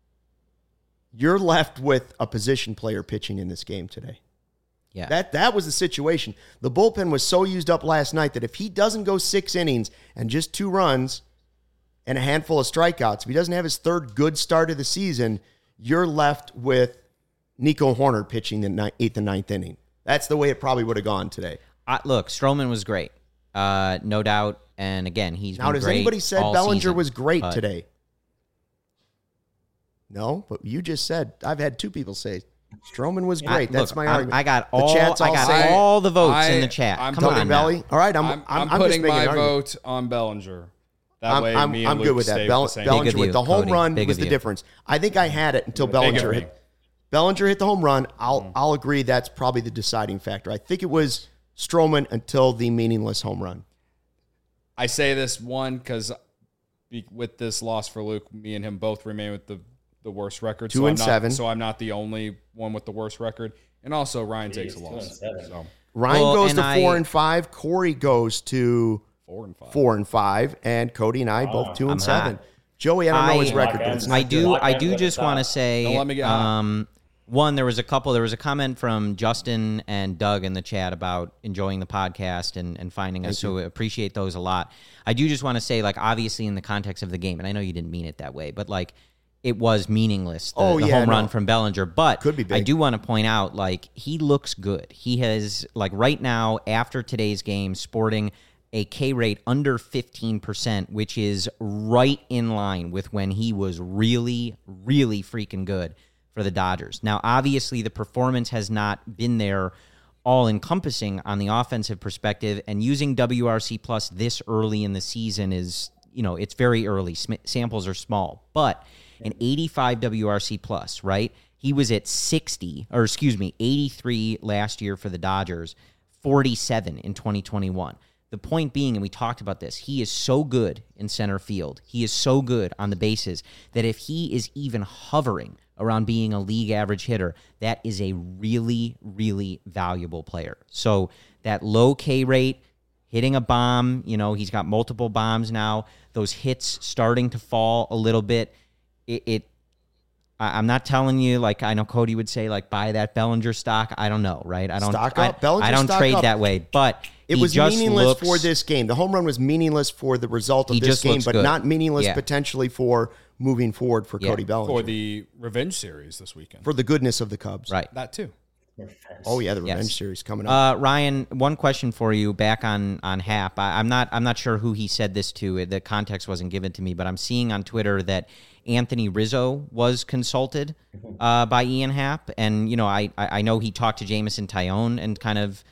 you're left with a position player pitching in this game today. Yeah. That that was the situation. The bullpen was so used up last night that if he doesn't go six innings and just two runs and a handful of strikeouts, if he doesn't have his third good start of the season, you're left with Nico Horner pitching the ni- eighth and ninth inning. That's the way it probably would have gone today. I, look, Stroman was great, uh, no doubt. And again, he's Now, been does great anybody said all Bellinger season, was great but- today? No, but you just said, I've had two people say Stroman was I- great. That's look, my I- argument. I got The all. chat's I all got saying- all the votes I- in the chat. I'm Come talking on, Belly. now. All right, I'm, I'm, I'm, I'm I'm just putting making my an argument. vote on Bellinger. That I'm, way, I'm, me and I'm Luke good with stay that. with Bell, the same. Bellinger Big of with you, the home Cody. run Big was of the you. difference. I think I had it until Big of Bellinger me. hit. Bellinger hit the home run. I'll I'll agree that's probably the deciding factor. I think it was Stroman until the meaningless home run. I say this one because with this loss for Luke, me and him both remain with the, the worst record. Two so and I'm not, seven. So I'm not the only one with the worst record. And also, Ryan Jeez, takes a two loss. and seven. So Ryan Well, goes and to four I- and five. Corey goes to four and five. four and five, and Cody and I both two and I'm seven. hot. Joey, I don't know his I- record, but it's I I not do. Lock I in do with the just want to top. say. Don't let me get hot. um, one, there was a couple. There was a comment from Justin and Doug in the chat about enjoying the podcast and, and finding us. So appreciate those a lot. I do just want to say, like, obviously in the context of the game, and I know you didn't mean it that way, but like, it was meaningless. The, Oh, the yeah, home run no. from Bellinger, but Could be big. I do want to point out, like, he looks good. He has, like, right now after today's game, sporting a K rate under fifteen percent, which is right in line with when he was really, really freaking good for the Dodgers. Now, obviously, the performance has not been there all encompassing on the offensive perspective, and using W R C plus this early in the season is, you know, it's very early. Sm- samples are small, but an eighty-five W R C plus, right? He was at sixty, or excuse me, eighty-three last year for the Dodgers, forty-seven in twenty twenty-one. The point being, and we talked about this, he is so good in center field. He is so good on the bases that if he is even hovering around being a league average hitter, that is a really, really valuable player. So that low K rate, hitting a bomb, you know, he's got multiple bombs now. Those hits starting to fall a little bit. It, it I, I'm not telling you, like I know Cody would say, like buy that Bellinger stock. I don't know, right? I don't. Stock I, up. Bellinger I don't stock trade up. that way, but It he was just meaningless looks, for this game. The home run was meaningless for the result of He this just game, looks but good. not meaningless Yeah. potentially for moving forward for Yeah. Cody Bellinger. For the revenge series this weekend. For the goodness of the Cubs. right. that too. Oh yeah, the Yes. revenge series coming up. Uh, Ryan, one question for you back on on Hap. I, I'm not I'm not sure who he said this to. The context wasn't given to me, but I'm seeing on Twitter that Anthony Rizzo was consulted uh, by Ian Happ, and you know I I I know he talked to Jameson Tyone and kind of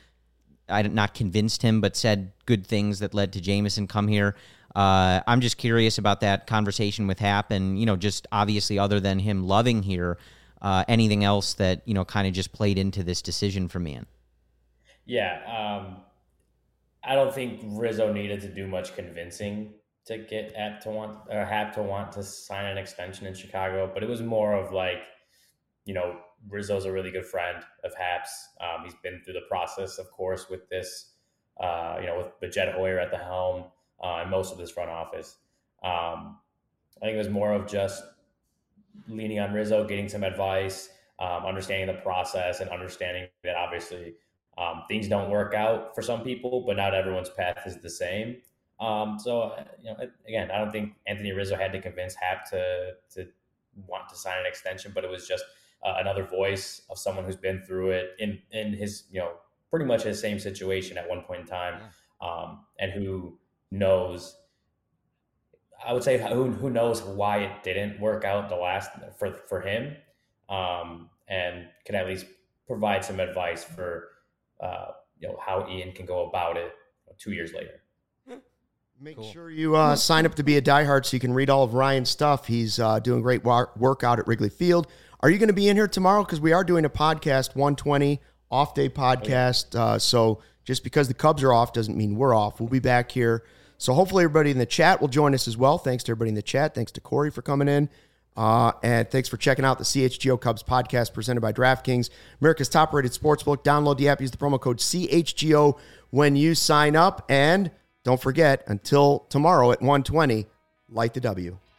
I not convinced him, but said good things that led to Jameson come here. Uh, I'm just curious about that conversation with Hap, and you know just obviously other than him loving here. Uh, anything else that, you know, kind of just played into this decision for me? Yeah. Um, I don't think Rizzo needed to do much convincing to get Happ to want or Happ to want to sign an extension in Chicago, but it was more of like, you know, Rizzo's a really good friend of Happ's. Um, he's been through the process, of course, with this, uh, you know, with, with Jed Hoyer at the helm uh, and most of this front office. Um, I think it was more of just leaning on Rizzo, getting some advice, um, understanding the process, and understanding that obviously um, things don't work out for some people, but not everyone's path is the same. Um, so, you know, again, I don't think Anthony Rizzo had to convince Happ to to want to sign an extension, but it was just uh, another voice of someone who's been through it in in his, you know, pretty much his same situation at one point in time, um, and who knows. I would say who who knows why it didn't work out the last for for him, um, and can at least provide some advice for uh, you know how Ian can go about it two years later. Make cool. sure you uh, sign up to be a diehard so you can read all of Ryan's stuff. He's uh, doing great war- work out at Wrigley Field. Are you going to be in here tomorrow? Because we are doing a podcast, one twenty off day podcast. Uh, so just because the Cubs are off doesn't mean we're off. We'll be back here. So hopefully everybody in the chat will join us as well. Thanks to everybody in the chat. Thanks to Corey for coming in. Uh, and thanks for checking out the C H G O Cubs podcast presented by DraftKings, America's top-rated sportsbook. Download the app. Use the promo code C H G O when you sign up. And don't forget, until tomorrow at one twenty, light the W.